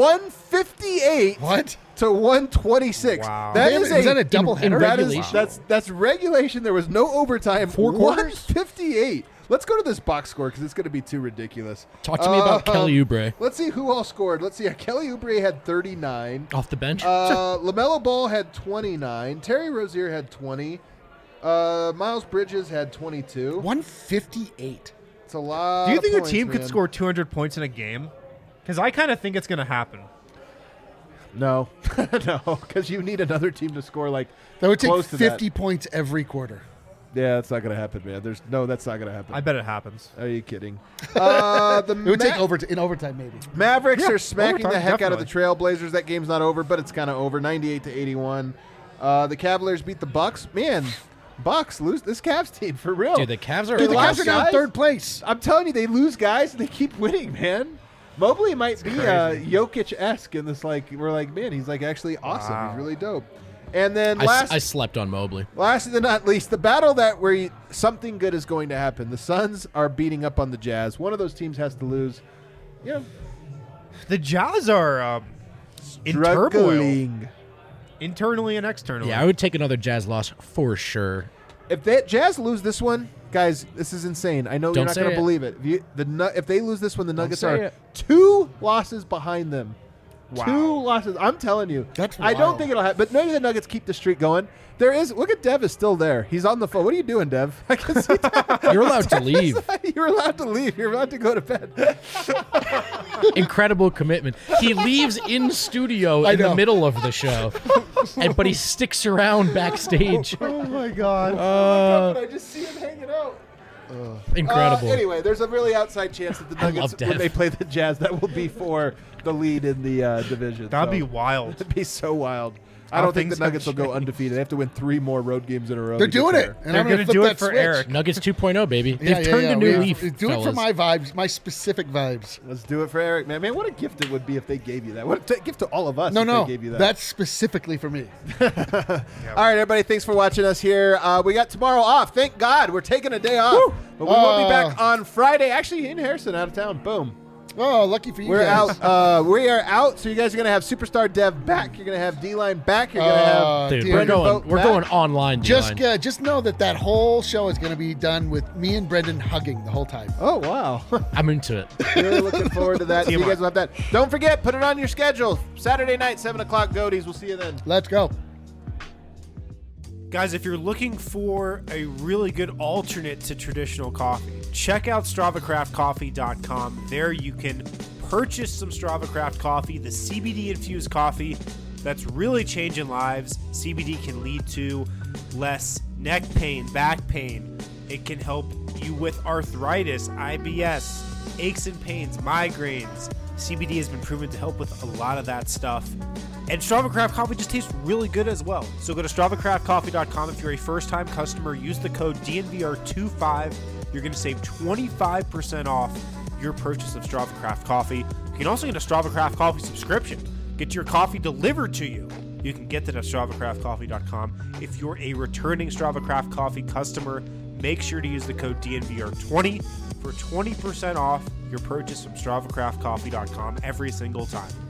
158 What? to 126. Wow. Was that a doubleheader? in That is, regulation? that's regulation. There was no overtime. 4 quarters? 158. Let's go to this box score because it's going to be too ridiculous. Talk to me about Kelly Oubre. Let's see who all scored. Let's see. Kelly Oubre had 39. Off the bench? LaMelo Ball had 29. Terry Rozier had 20. Miles Bridges had 22. 158. It's a lot. Do you of think points, a team could man. score 200 points in a game? Because I kind of think it's going to happen. No, no, because you need another team to score like That would take close to 50 points every quarter. Yeah, that's not going to happen, man. That's not going to happen. I bet it happens. Are you kidding? The It would take in overtime, maybe. Mavericks Yeah, are smacking overtime, the heck out of the definitely. Trailblazers. That game's not over, but it's kind of over. 98 to 81. The Cavaliers beat the Bucks. Man, Bucks lose this Cavs team for real. Dude, the Cavs are Dude, the Cavs are now guys- third place. I'm telling you, they lose guys and they keep winning, man. Mobley might be Jokic-esque in this. Like we're like, man, he's like actually awesome. Wow. He's really dope. And then I slept on Mobley. last but not least, the battle that where something good is going to happen. The Suns are beating up on the Jazz. One of those teams has to lose. Yeah, The Jazz are in turmoil, struggling. internally and externally. Yeah, I would take another Jazz loss for sure. If the Jazz lose this one, guys, this is insane. I know Don't you're not say going to it. believe it. If they lose this one, the Nuggets say are it. 2 losses behind them. Wow. 2 losses. I'm telling you. That's I don't wild. think it'll happen. But maybe the Nuggets keep the streak going. There is. Look at Dev is still there. He's on the phone. What are you doing, Dev? I can see Dev. You're allowed to leave. You're allowed to leave. You're allowed to go to bed. Incredible commitment. He leaves in studio in the know. middle of the show, but he sticks around backstage. Oh my God. I just see him hanging out. Incredible. Anyway, there's a really outside chance that the I Nuggets, love Dev. when they play the Jazz, that will be for the lead in the division. That'd be So, wild. It'd be so wild. I How don't think the things have Nuggets will go changed. undefeated. They have to win 3 more road games in a row. They're to get doing there. it. And They're I'm going gonna to do flip it that for switch. Eric. Nuggets 2.0, baby. Yeah, They've turned a new leaf. Do it for fellas. my vibes, my specific vibes. Let's do it for Eric, man. Man, what a gift it would be if they gave you that. What a gift to all of us No, if no, they gave you that. that's specifically for me. All right, everybody, thanks for watching us here. We got tomorrow off. Thank God. We're taking a day off. But we will be back on Friday. Actually, in Harrison, out of town. Boom. Oh, lucky for you We're guys. out. We are out. So you guys are gonna have Superstar Dev back. You're gonna have D-Line back. You're gonna have Dude, Dear we're Brendan going. Vogt We're back. going online. Just D-line. just know that whole show is going to be done with me and Brendan hugging the whole time. Oh wow. I'm into it. Really looking forward to that. So you TMI. guys will have that. Don't forget, put it on your schedule. Saturday night, 7 o'clock. Goatees. We'll see you then. Let's go. Guys, if you're looking for a really good alternate to traditional coffee, check out StravaCraftCoffee.com. There you can purchase some StravaCraft coffee, the CBD-infused coffee that's really changing lives. CBD can lead to less neck pain, back pain. It can help you with arthritis, IBS, aches and pains, migraines. CBD has been proven to help with a lot of that stuff. And StravaCraft coffee just tastes really good as well. So go to StravaCraftCoffee.com. If you're a first-time customer, use the code DNVR25. You're going to save 25% off your purchase of StravaCraft coffee. You can also get a StravaCraft coffee subscription. Get your coffee delivered to you. You can get that at StravaCraftCoffee.com. If you're a returning StravaCraft coffee customer, make sure to use the code DNVR20 for 20% off your purchase from StravaCraftCoffee.com every single time.